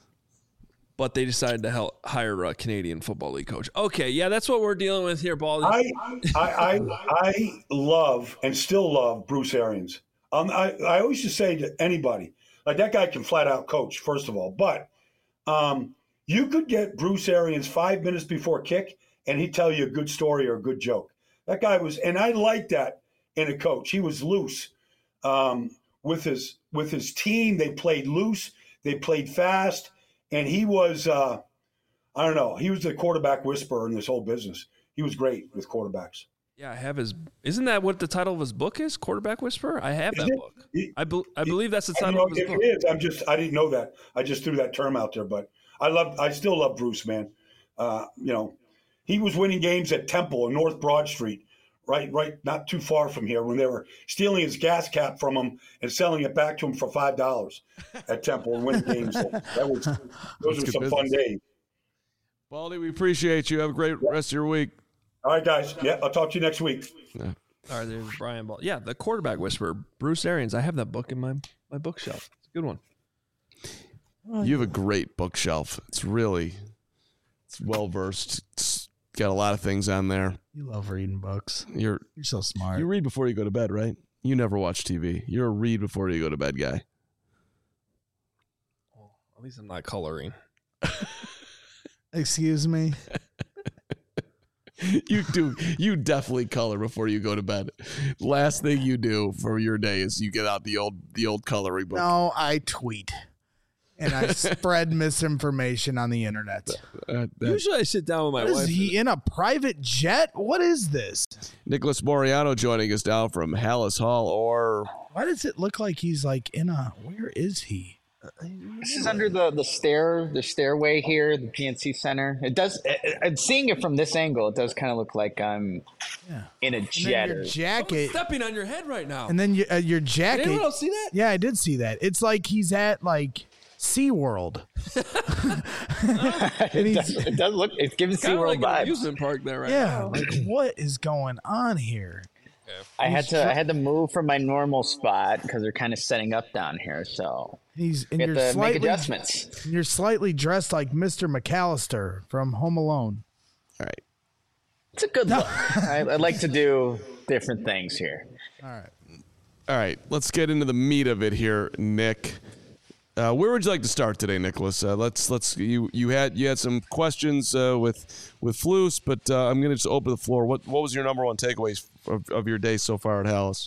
but they decided to hel- hire a Canadian Football League coach. Okay, yeah, that's what we're dealing with here, Baldy. I, I, I, I love and still love Bruce Arians. Um, I, I always just say to anybody, like, that guy can flat out coach, first of all. But um, you could get Bruce Arians five minutes before kick, and he'd tell you a good story or a good joke. That guy was, and I like that in a coach. He was loose um, with his with his team. They played loose. They played fast, and he was. Uh, I don't know. He was the quarterback whisperer in this whole business. He was great with quarterbacks. Yeah, I have his. Isn't that what the title of his book is? Quarterback Whisperer. I have that Is it? book. He- I, be, I believe that's the I don't title know of his if book. it is. I'm just. I didn't know that. I just threw that term out there, but I love. I still love Bruce, man. Uh, you know, he was winning games at Temple and North Broad Street, right, right, not too far from here, when they were stealing his gas cap from him and selling it back to him for five dollars at Temple and winning games. That was. Those That's were good some fun business. days. Baldy, we appreciate you. Have a great rest of your week. All right, guys. Yeah, I'll talk to you next week. All right, there's Brian Ball. Yeah, the Quarterback Whisperer, Bruce Arians. I have that book in my my bookshelf. It's a good one. You have a great bookshelf. It's really, it's well versed. It's got a lot of things on there. You love reading books. You're You're so smart. you read before you go to bed, right? You never watch T V. You're a read before you go to bed guy. At least I'm not coloring. Excuse me. You do. You definitely color before you go to bed. Last thing you do for your day is you get out the old the old coloring book. No, I tweet. And I spread misinformation on the internet. Uh, that- Usually I sit down with my What is wife. he in a private jet? What is this? Nicholas Moriano joining us now from Hallis Hall, or Why does it look like he's like in a? Where is he? This is under the, the stair, the stairway here, the P N C Center. It does. And seeing it from this angle, it does kind of look like I'm Yeah. in a And then jet. your or- jacket. stepping on your head right now. And then your, uh, your Did jacket. anyone else see that? Yeah, I did see that. It's like he's at like SeaWorld. And it, he's, does, it does look. It's giving Kind of SeaWorld like an vibes. amusement park there right yeah, now. like what is going on here? I had to I had to move from my normal spot because they're kind of setting up down here, so He's and we you're have to make slightly adjustments. you're slightly dressed like Mister McAllister from Home Alone. All right. It's a good look. I, I like to do different things here. All right. All right. Let's get into the meat of it here, Nick. Uh, where would you like to start today, Nicholas? Uh, let's let's you you had you had some questions uh, with with Flus, but uh, I'm going to just open the floor. What what was your number one takeaways of, of your day so far at Hallis?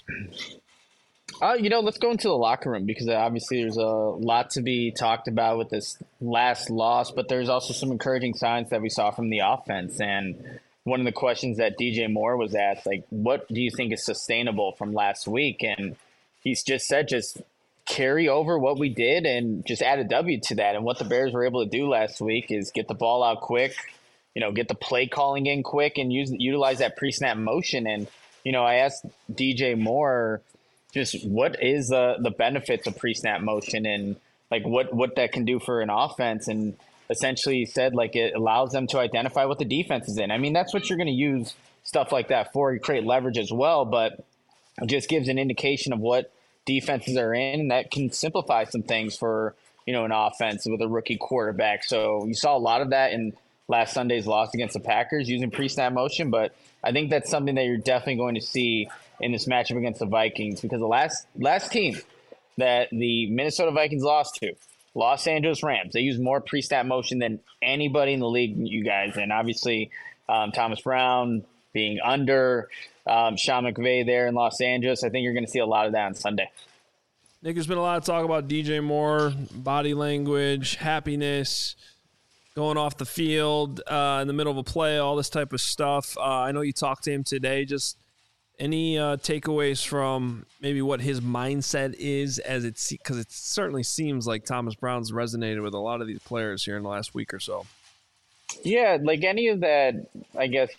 Uh, you know, let's go into the locker room because obviously there's a lot to be talked about with this last loss, but there's also some encouraging signs that we saw from the offense. And one of the questions that D J Moore was asked, like, what do you think is sustainable from last week? And he's just said, just carry over what we did and just add a W to that. And what the Bears were able to do last week is get the ball out quick, you know, get the play calling in quick and use utilize that pre-snap motion. And, you know, I asked D J Moore just what is the, the benefits of pre-snap motion and like what, what that can do for an offense. And essentially he said like it allows them to identify what the defense is in. I mean, that's what you're going to use stuff like that for. You create leverage as well, but it just gives an indication of what defenses are in, and that can simplify some things for, you know, an offense with a rookie quarterback. So you saw a lot of that in last Sunday's loss against the Packers using pre-snap motion, but I think that's something that you're definitely going to see in this matchup against the Vikings because the last last team that the Minnesota Vikings lost to, Los Angeles Rams, they use more pre-snap motion than anybody in the league, you guys. And obviously um, Thomas Brown being under um, Sean McVay there in Los Angeles, I think you're going to see a lot of that on Sunday. Nick, there's been a lot of talk about D J Moore, body language, happiness, going off the field uh, in the middle of a play, all this type of stuff. Uh, I know you talked to him today. Just any uh, takeaways from maybe what his mindset is as it – because it certainly seems like Thomas Brown's resonated with a lot of these players here in the last week or so. Yeah, like any of that, I guess,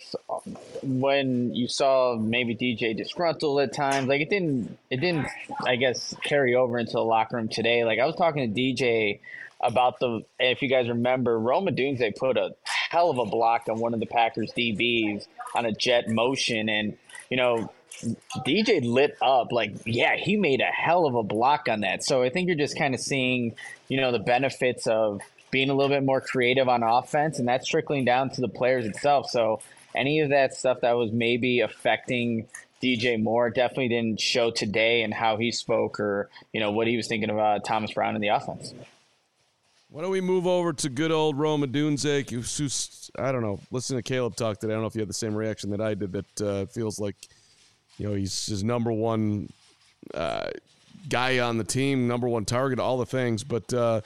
when you saw maybe D J disgruntled at times, like it didn't, it didn't, I guess, carry over into the locker room today. Like I was talking to D J about the, if you guys remember, Rome Odunze put a hell of a block on one of the Packers D Bs on a jet motion. And, you know, D J lit up like, yeah, he made a hell of a block on that. So I think you're just kind of seeing, you know, the benefits of being a little bit more creative on offense, and that's trickling down to the players itself. So any of that stuff that was maybe affecting D J Moore definitely didn't show today and how he spoke or, you know, what he was thinking about Thomas Brown in the offense. Why don't we move over to good old Rome Odunze, who's, I don't know, listen to Caleb talk today. I don't know if you had the same reaction that I did, that uh, feels like, you know, he's his number one uh, guy on the team, number one target, all the things. But uh,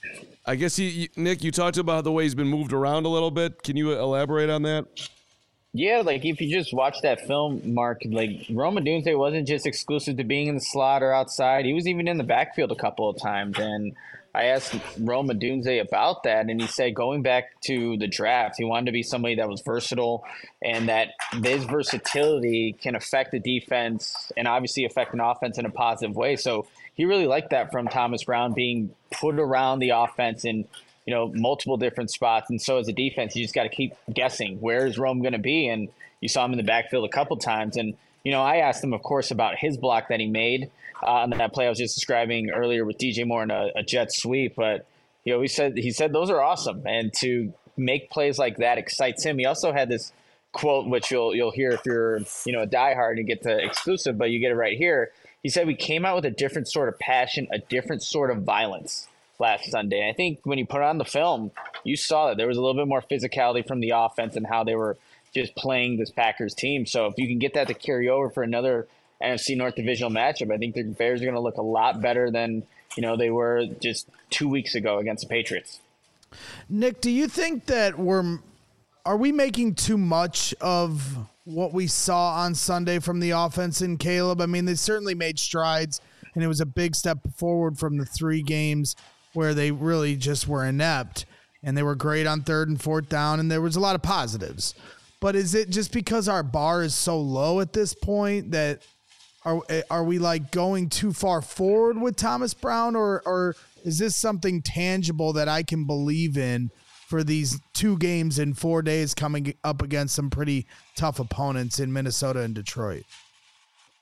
I guess, he, Nick, you talked about the way he's been moved around a little bit. Can you elaborate on that? Yeah, like if you just watch that film, Mark, like Rome Odunze wasn't just exclusive to being in the slot or outside. He was even in the backfield a couple of times. And I asked Rome Odunze about that, and he said going back to the draft, he wanted to be somebody that was versatile and that this versatility can affect the defense and obviously affect an offense in a positive way. So he really liked that from Thomas Brown being put around the offense in, you know, multiple different spots. And so as a defense, you just got to keep guessing, where is Rome going to be? And you saw him in the backfield a couple times. And, you know, I asked him, of course, about his block that he made uh, on that play I was just describing earlier with D J Moore and a, a jet sweep. But, you know, he said, he said those are awesome. And to make plays like that excites him. He also had this quote, which you'll, you'll hear if you're, you know, a diehard and get the exclusive, but you get it right here. He said, we came out with a different sort of passion, a different sort of violence last Sunday. I think when you put on the film, you saw that there was a little bit more physicality from the offense and how they were just playing this Packers team. So if you can get that to carry over for another N F C North divisional matchup, I think the Bears are going to look a lot better than, you know, they were just two weeks ago against the Patriots. Nick, do you think that we're are we making too much of what we saw on Sunday from the offense in Caleb? I mean, they certainly made strides, and it was a big step forward from the three games where they really just were inept, and they were great on third and fourth down, and there was a lot of positives. But is it just because our bar is so low at this point that are are we like going too far forward with Thomas Brown, or or is this something tangible that I can believe in for these two games in four days coming up against some pretty tough opponents in Minnesota and Detroit?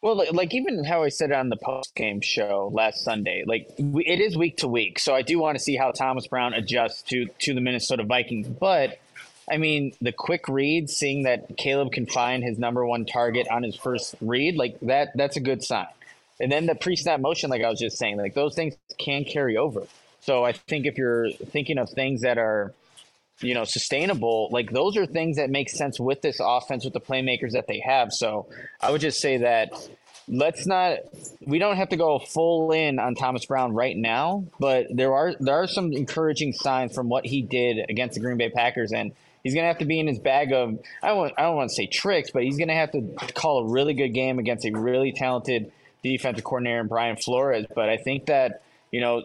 Well, like, like even how I said on the post game show last Sunday, like we, it is week to week, so I do want to see how Thomas Brown adjusts to to the Minnesota Vikings. But I mean, the quick read, seeing that Caleb can find his number one target on his first read, like that, that's a good sign. And then the pre-snap motion, like I was just saying, like those things can carry over. So I think if you're thinking of things that are, you know, sustainable, like those are things that make sense with this offense, with the playmakers that they have. So I would just say that let's not, we don't have to go full in on Thomas Brown right now, but there are, there are some encouraging signs from what he did against the Green Bay Packers. And he's going to have to be in his bag of, I don't want, I don't want to say tricks, but he's going to have to call a really good game against a really talented defensive coordinator in Brian Flores. But I think that, you know,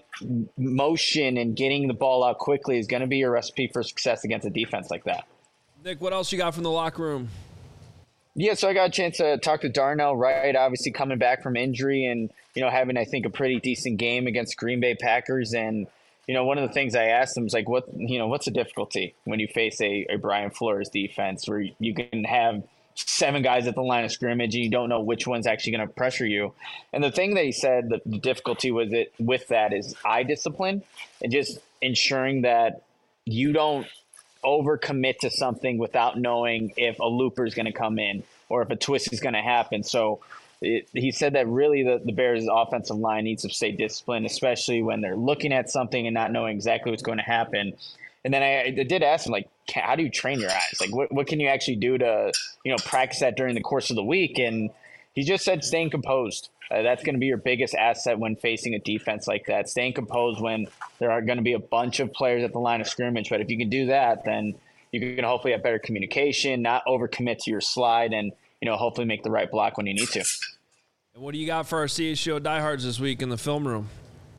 motion and getting the ball out quickly is going to be a recipe for success against a defense like that. Nick, what else you got from the locker room? Yeah, so I got a chance to talk to Darnell Wright, obviously coming back from injury and, you know, having, I think, a pretty decent game against Green Bay Packers. And, you know, one of the things I asked him was like, what, you know, what's the difficulty when you face a, a Brian Flores defense where you can have seven guys at the line of scrimmage and you don't know which one's actually going to pressure you. And the thing that he said, the, the difficulty with it with that is eye discipline and just ensuring that you don't overcommit to something without knowing if a looper is going to come in or if a twist is going to happen. So it, he said that really the, the Bears' offensive line needs to stay disciplined, especially when they're looking at something and not knowing exactly what's going to happen. And then I, I did ask him, like, how do you train your eyes? Like, what, what can you actually do to, you know, practice that during the course of the week? And he just said staying composed. Uh, that's going to be your biggest asset when facing a defense like that. Staying composed when there are going to be a bunch of players at the line of scrimmage. But if you can do that, then you can hopefully have better communication, not overcommit to your slide, and, you know, hopefully make the right block when you need to. And what do you got for our C H G O diehards this week in the film room?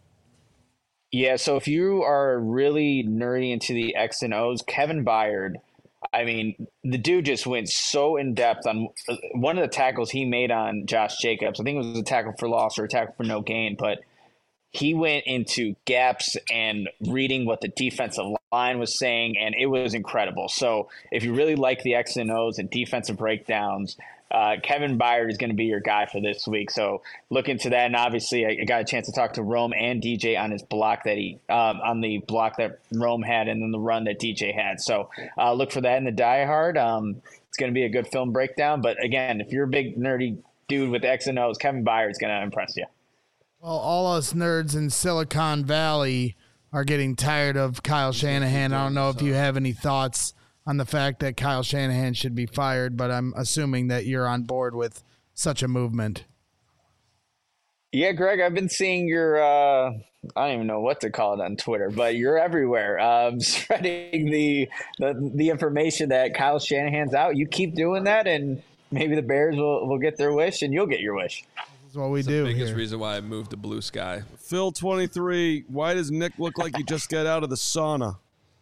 Yeah, so if you are really nerdy into the X and O's, Kevin Byard, I mean, the dude just went so in depth on one of the tackles he made on Josh Jacobs. I think it was a tackle for loss or a tackle for no gain, but he went into gaps and reading what the defensive line was saying, and it was incredible. So if you really like the X and O's and defensive breakdowns, Uh, Kevin Byard is going to be your guy for this week. So look into that. And obviously I, I got a chance to talk to Rome and D J on his block that he, um, on the block that Rome had and then the run that D J had. So uh, look for that in the Die Hard. Um, it's going to be a good film breakdown. But again, if you're a big nerdy dude with X and O's, Kevin Byard is going to impress you. Well, all us nerds in Silicon Valley are getting tired of Kyle Shanahan. I don't know if you have any thoughts on the fact that Kyle Shanahan should be fired, but I'm assuming that you're on board with such a movement. Yeah, Greg, I've been seeing your, uh, I don't even know what to call it on Twitter, but you're everywhere, um, spreading the, the the information that Kyle Shanahan's out. You keep doing that, and maybe the Bears will, will get their wish, and you'll get your wish. This is what we That's do the biggest here. reason why I moved to Blue Sky. Phil twenty-three, why does Nick look like he just got out of the sauna?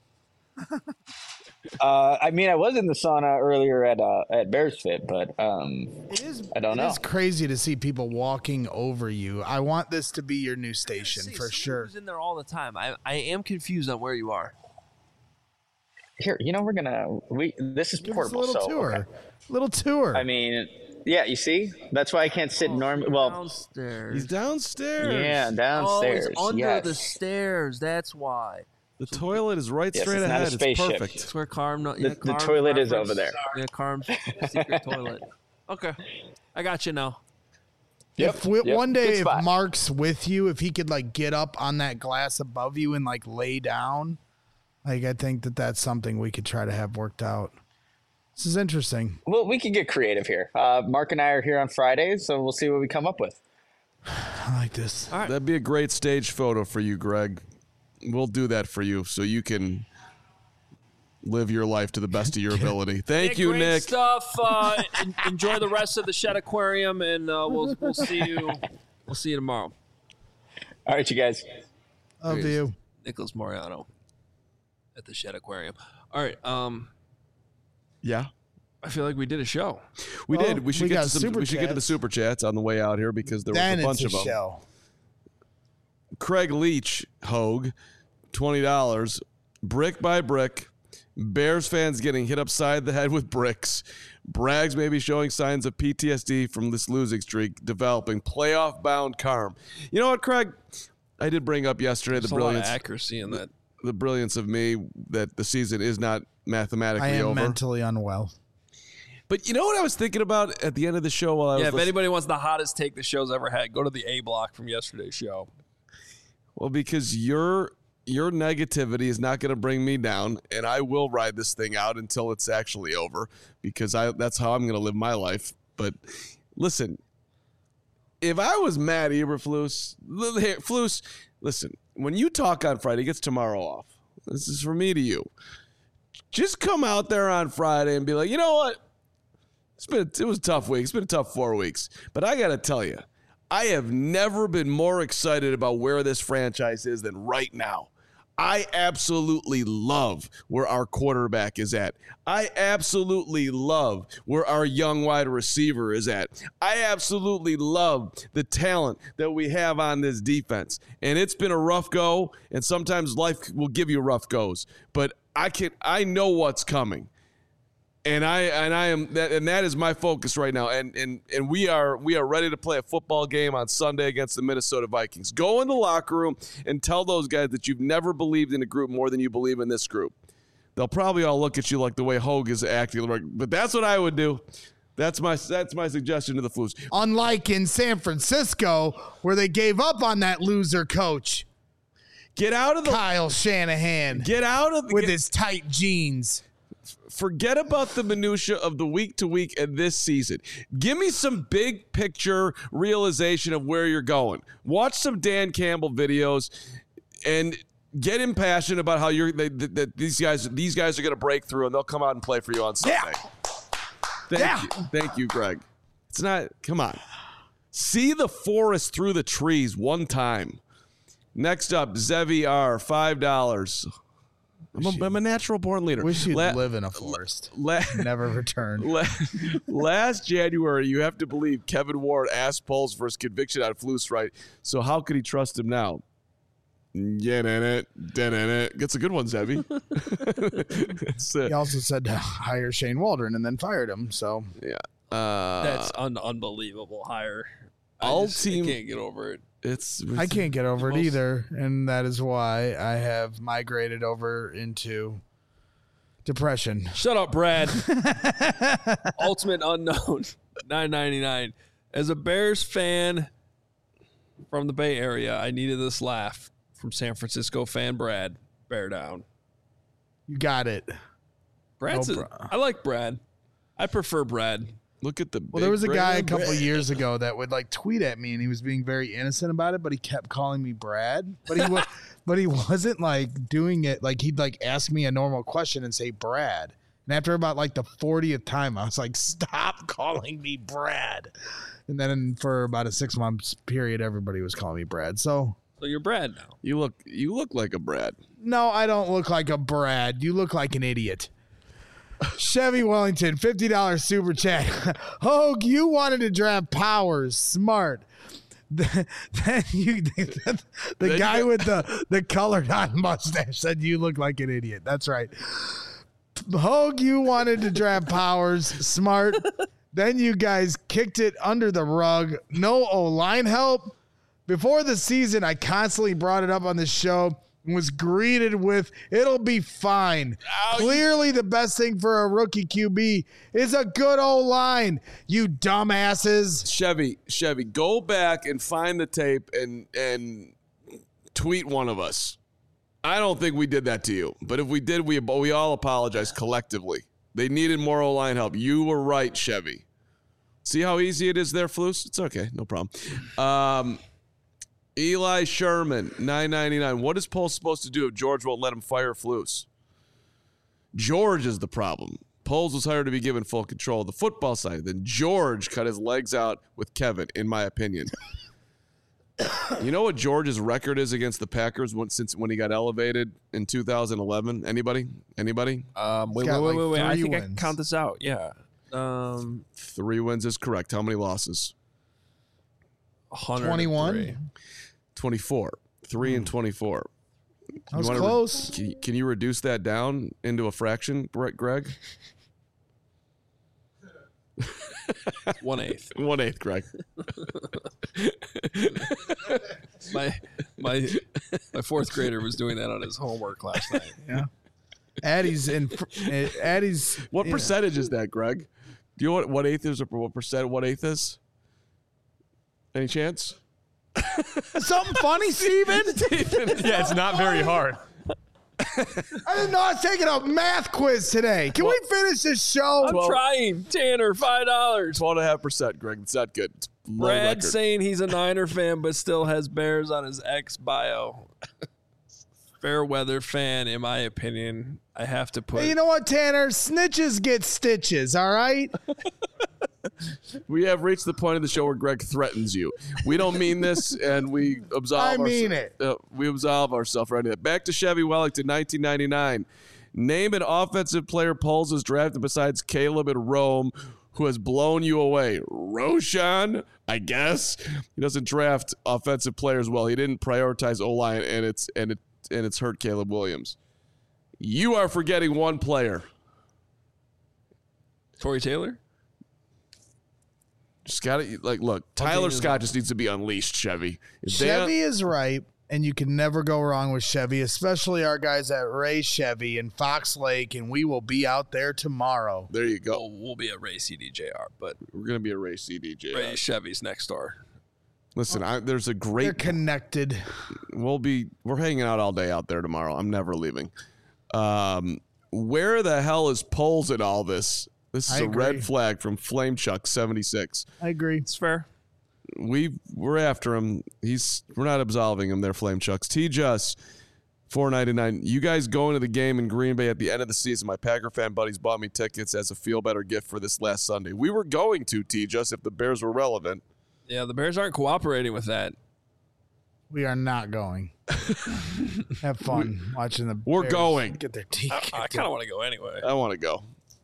Uh, I mean, I was in the sauna earlier at uh, at Bears Fit, but um, It is, I don't it know. is crazy to see people walking over you. I want this to be your new station See, for someone sure. who's in there all the time. I, I am confused on where you are. Here, you know, we're gonna we this is Give us a portable, little so tour. okay. Little tour. I mean, yeah, you see, that's why I can't sit normal. Well, downstairs. He's downstairs. yeah, Oh, downstairs. it's under yes. the stairs. That's why. The toilet is right Yes, straight it's not a ahead. It's spaceship. perfect. That's where Carm. No, The- yeah, the Carm's toilet is reference. over there. Yeah, Carm's secret toilet. Okay, I got you now. Yep, if we, yep, one good day, if spot. Mark's with you, if he could like get up on that glass above you and like lay down, like I think that that's something we could try to have worked out. This is interesting. Well, we can get creative here. Uh, Mark and I are here on Fridays, so we'll see what we come up with. I like this. All right. That'd be a great stage photo for you, Greg. We'll do that for you so you can live your life to the best of your ability. Thank Nick, you, great Nick. stuff. Uh, en- enjoy the rest of the Shed Aquarium, and uh, we'll we'll see you. We'll see you tomorrow. All right, you guys. Love you. Nicholas Moriano at the Shed Aquarium. All right. Um, Yeah. I feel like we did a show. We Well, did. We should we get got to some, super we should get to the chats. super chats on the way out here because there Then was a it's bunch a of them. show. Craig Leach, Hogue, twenty dollars. Brick by brick, Bears fans getting hit upside the head with bricks. Braggs may be showing signs of P T S D from this losing streak, developing playoff-bound calm. You know what, Craig? I did bring up yesterday There's the a lot of brilliance, accuracy in that. the brilliance of me that the season is not mathematically I am over. mentally unwell. But you know what I was thinking about at the end of the show while I was Yeah, if listening? anybody wants the hottest take the show's ever had, go to the A block from yesterday's show. Well, because your your negativity is not going to bring me down, and I will ride this thing out until it's actually over, because I that's how I'm going to live my life. But listen, if I was Matt Eberflus, hey, Flus, listen, when you talk on Friday, it gets tomorrow off. This is for me to you. Just come out there on Friday and be like, you know what? It's been it was a tough week. It's been a tough four weeks. But I got to tell you, I have never been more excited about where this franchise is than right now. I absolutely love where our quarterback is at. I absolutely love where our young wide receiver is at. I absolutely love the talent that we have on this defense. And it's been a rough go, and sometimes life will give you rough goes. But I can I know what's coming. And I and I am that and that is my focus right now. And and and we are we are ready to play a football game on Sunday against the Minnesota Vikings. Go in the locker room and tell those guys that you've never believed in a group more than you believe in this group. They'll probably all look at you like the way Hogue is acting, but that's what I would do. That's my that's my suggestion to the Flus. Unlike in San Francisco, where they gave up on that loser coach, Get out of the Kyle Shanahan, get out of the, with get, his tight jeans. Forget about the minutia of the week to week and this season. Give me some big picture realization of where you're going. Watch some Dan Campbell videos and get impassioned about how you're they, that these guys these guys are going to break through and they'll come out and play for you on Sunday. Yeah. Thank Yeah. you. Thank you, Greg. It's not come on. See the forest through the trees one time. Next up, Zevi R, five dollars. I'm a, I'm a natural born leader. Wish you'd La- live in a forest. La- Never return. La- Last January, you have to believe Kevin Ward asked Poles for his conviction on Flus, right? So how could he trust him now? Yeah, it, it. That's a good one, Zevi. He also said to hire Shane Waldron and then fired him. So yeah, uh, That's an unbelievable hire. I all just team- I can't get over it. it's, it's I can't get over it most- either, and that is why I have migrated over into depression. Shut up, Brad. Ultimate Unknown, nine ninety-nine. As a Bears fan from the Bay Area, I needed this laugh from San Francisco fan Brad. Bear down. You got it. Brad's. Oh, a, bro. I like Brad. I prefer Brad. Look at the. Well, there was a guy a big couple of years ago that would like tweet at me, and he was being very innocent about it, but he kept calling me Brad. But he was, but he wasn't like doing it like he'd like ask me a normal question and say Brad. And after about like the fortieth time, I was like, "Stop calling me Brad." And then for about a six months period, everybody was calling me Brad. So So you're Brad now. You look. You look like a Brad. no, I don't look like a Brad. You look like an idiot. Chevy Wellington, fifty dollars super chat. Hogue, you wanted to draft Powers. Smart. Then you, the Then guy you- with the, the colored on mustache said you look like an idiot. That's right. Hogue, you wanted to draft Powers. Smart. Then you guys kicked it under the rug. No O-line help. Before the season, I constantly brought it up on the show and was greeted with, it'll be fine. Ow, Clearly, the best thing for a rookie Q B is a good O-line, you dumbasses. Chevy, Chevy, go back and find the tape and and tweet one of us. I don't think we did that to you, but if we did, we we all apologize collectively. They needed more O-line help. You were right, Chevy. See how easy it is there, Flus? It's okay, no problem. Um, Eli Sherman, nine ninety-nine. What is Poles supposed to do if George won't let him fire Flus? George is the problem. Poles was hired to be given full control of the football side. Then George cut his legs out with Kevin, in my opinion. You know what George's record is against the Packers when, since when he got elevated in two thousand eleven? Anybody? Anybody? Um, wait, got wait, wait, like wait, wait. I three think I wins. can count this out. Yeah. Um, Three wins is correct. How many losses? one hundred three. twenty-one? twenty-four. Three and twenty-four. I was wanna close. Re- can, you- can you reduce that down into a fraction, Gre- Greg? One eighth. One eighth, Greg. My my my fourth grader was doing that on his homework last night. Yeah. Addie's in. uh, Addie's. What yeah. percentage is that, Greg? Do you know what, what eighth is or what percent what eighth is? Any chance? Something funny, Steven? Yeah, it's not very hard. I didn't know I was taking a math quiz today. Can we finish this show? I'm trying. Tanner, five dollars. Twelve and a half percent, Greg. It's not good. It's low Brad record. saying he's a Niner fan but still has Bears on his ex bio. Fair weather fan, in my opinion. I have to put. Hey, you know what, Tanner? Snitches get stitches, all right? We have reached the point of the show where Greg threatens you. We don't mean this, and we absolve. I mean ourse- it. Uh, we absolve ourselves right now. Back to Chevy Wellington, nineteen ninety-nine. Name an offensive player Poles has drafted besides Caleb and Rome, who has blown you away. Roshan, I guess. He doesn't draft offensive players well. He didn't prioritize O-line, and it's and it and it's hurt Caleb Williams. You are forgetting one player. Corey Taylor? Just got to like look. Tyler Scott just needs to be unleashed. Chevy. If they- Chevy is right, and you can never go wrong with Chevy, especially our guys at Ray Chevy in Fox Lake, and we will be out there tomorrow. There you go. Oh, we'll be at Ray C D J R, but We're gonna be a Ray C D J. Ray Chevy's next door. Listen, I, there's a They're great. connected. We'll be. We're hanging out all day out there tomorrow. I'm never leaving. Um, where the hell is Poles in all this? This is I a agree. red flag from Flame Chuck seventy-six. I agree. It's fair. We we're after him. He's we're not absolving him. They're Flame Chucks. T Just four ninety-nine. You guys going to the game in Green Bay at the end of the season? My Packer fan buddies bought me tickets as a feel better gift for this last Sunday. We were going to T Just if the Bears were relevant. Yeah, the Bears aren't cooperating with that. We are not going. Have fun watching the We're Bears going. get their teeth I, kicked I in. kind of want to go anyway. I want to go.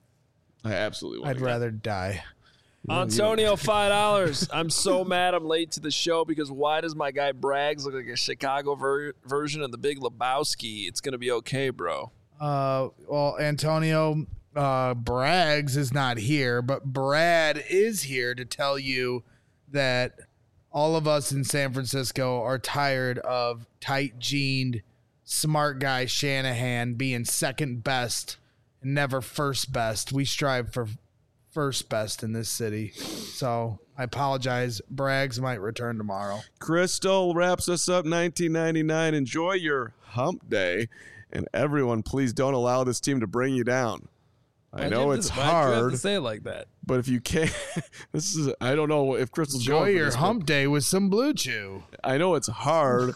I absolutely want I'd to go. rather die. Antonio, five dollars. I'm so mad I'm late to the show because why does my guy Braggs look like a Chicago ver- version of the Big Lebowski? It's going to be okay, bro. Uh, well, Antonio uh, Braggs is not here, but Brad is here to tell you that all of us in San Francisco are tired of tight-jeaned, smart guy Shanahan being second best and never first best. We strive for first best in this city. So I apologize. Braggs might return tomorrow. Crystal wraps us up nineteen ninety-nine. Enjoy your hump day. And everyone, please don't allow this team to bring you down. I Why'd you know have it's to- why'd you have hard, to say it like that. but if you can't, this is, I don't know if Crystal's Enjoy going for your this, but hump day with some Blue Chew. I know it's hard,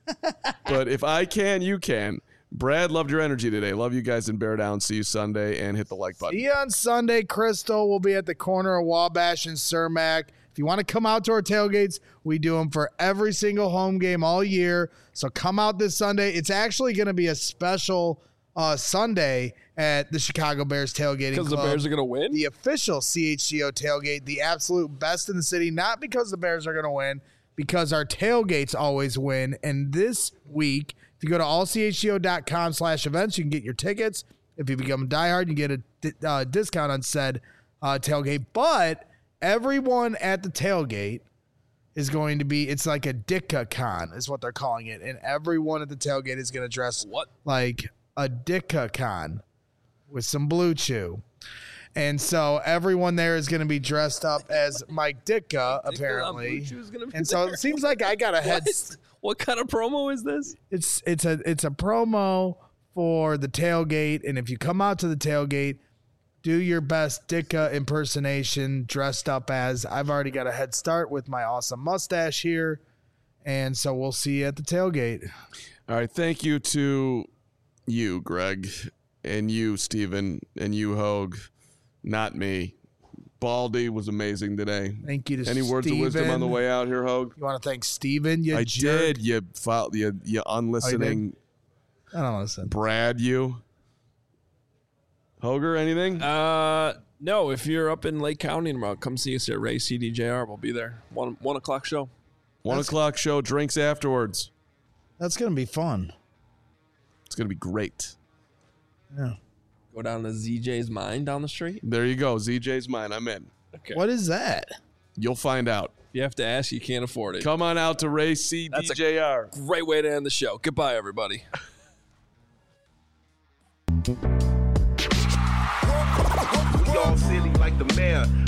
but if I can, you can. Brad, loved your energy today. Love you guys in Bear Down. See you Sunday and hit the like button. See you on Sunday, Crystal. We'll be at the corner of Wabash and Cermak. If you want to come out to our tailgates, we do them for every single home game all year. So come out this Sunday. It's actually going to be a special uh, Sunday at the Chicago Bears tailgating Because the club. Bears are going to win? The official C H G O tailgate, the absolute best in the city, not because the Bears are going to win, because our tailgates always win. And this week, if you go to allchgo.com slash events, you can get your tickets. If you become a diehard, you get a di- uh, discount on said uh, tailgate. But everyone at the tailgate is going to be, it's like a Ditka Con is what they're calling it. And everyone at the tailgate is going to dress What? like a Ditka Con with some Blue Chew. And so everyone there is going to be dressed up as Mike Ditka, apparently. Blue Chew's gonna be And so there. it seems like I got a head. What? What kind of promo is this? It's it's a it's a promo for the tailgate, and if you come out to the tailgate, do your best Ditka impersonation dressed up as. I've already got a head start with my awesome mustache here, and so we'll see you at the tailgate. All right. Thank you to you, Greg, and you, Steven, and you, Hogue. Not me. Baldy was amazing today. Thank you to Any words of wisdom on the Steven. way out here, Hogue? You want to thank Steven? You I jerk? did. You, file, you, you unlistening I don't listen. Brad, you. Hoger, anything? Uh, no, if you're up in Lake County tomorrow, come see us at Ray C D J R. We'll be there. One one o'clock show. One that's- o'clock show, drinks afterwards. That's gonna be fun. It's going to be great. Yeah. Go down to Z J's Mine down the street. There you go. Z J's mine. I'm in. Okay. What is that? You'll find out. You have to ask. You can't afford it. Come on out to Ray C That's D J R. a great way to end the show. Goodbye, everybody. We all silly like the mayor.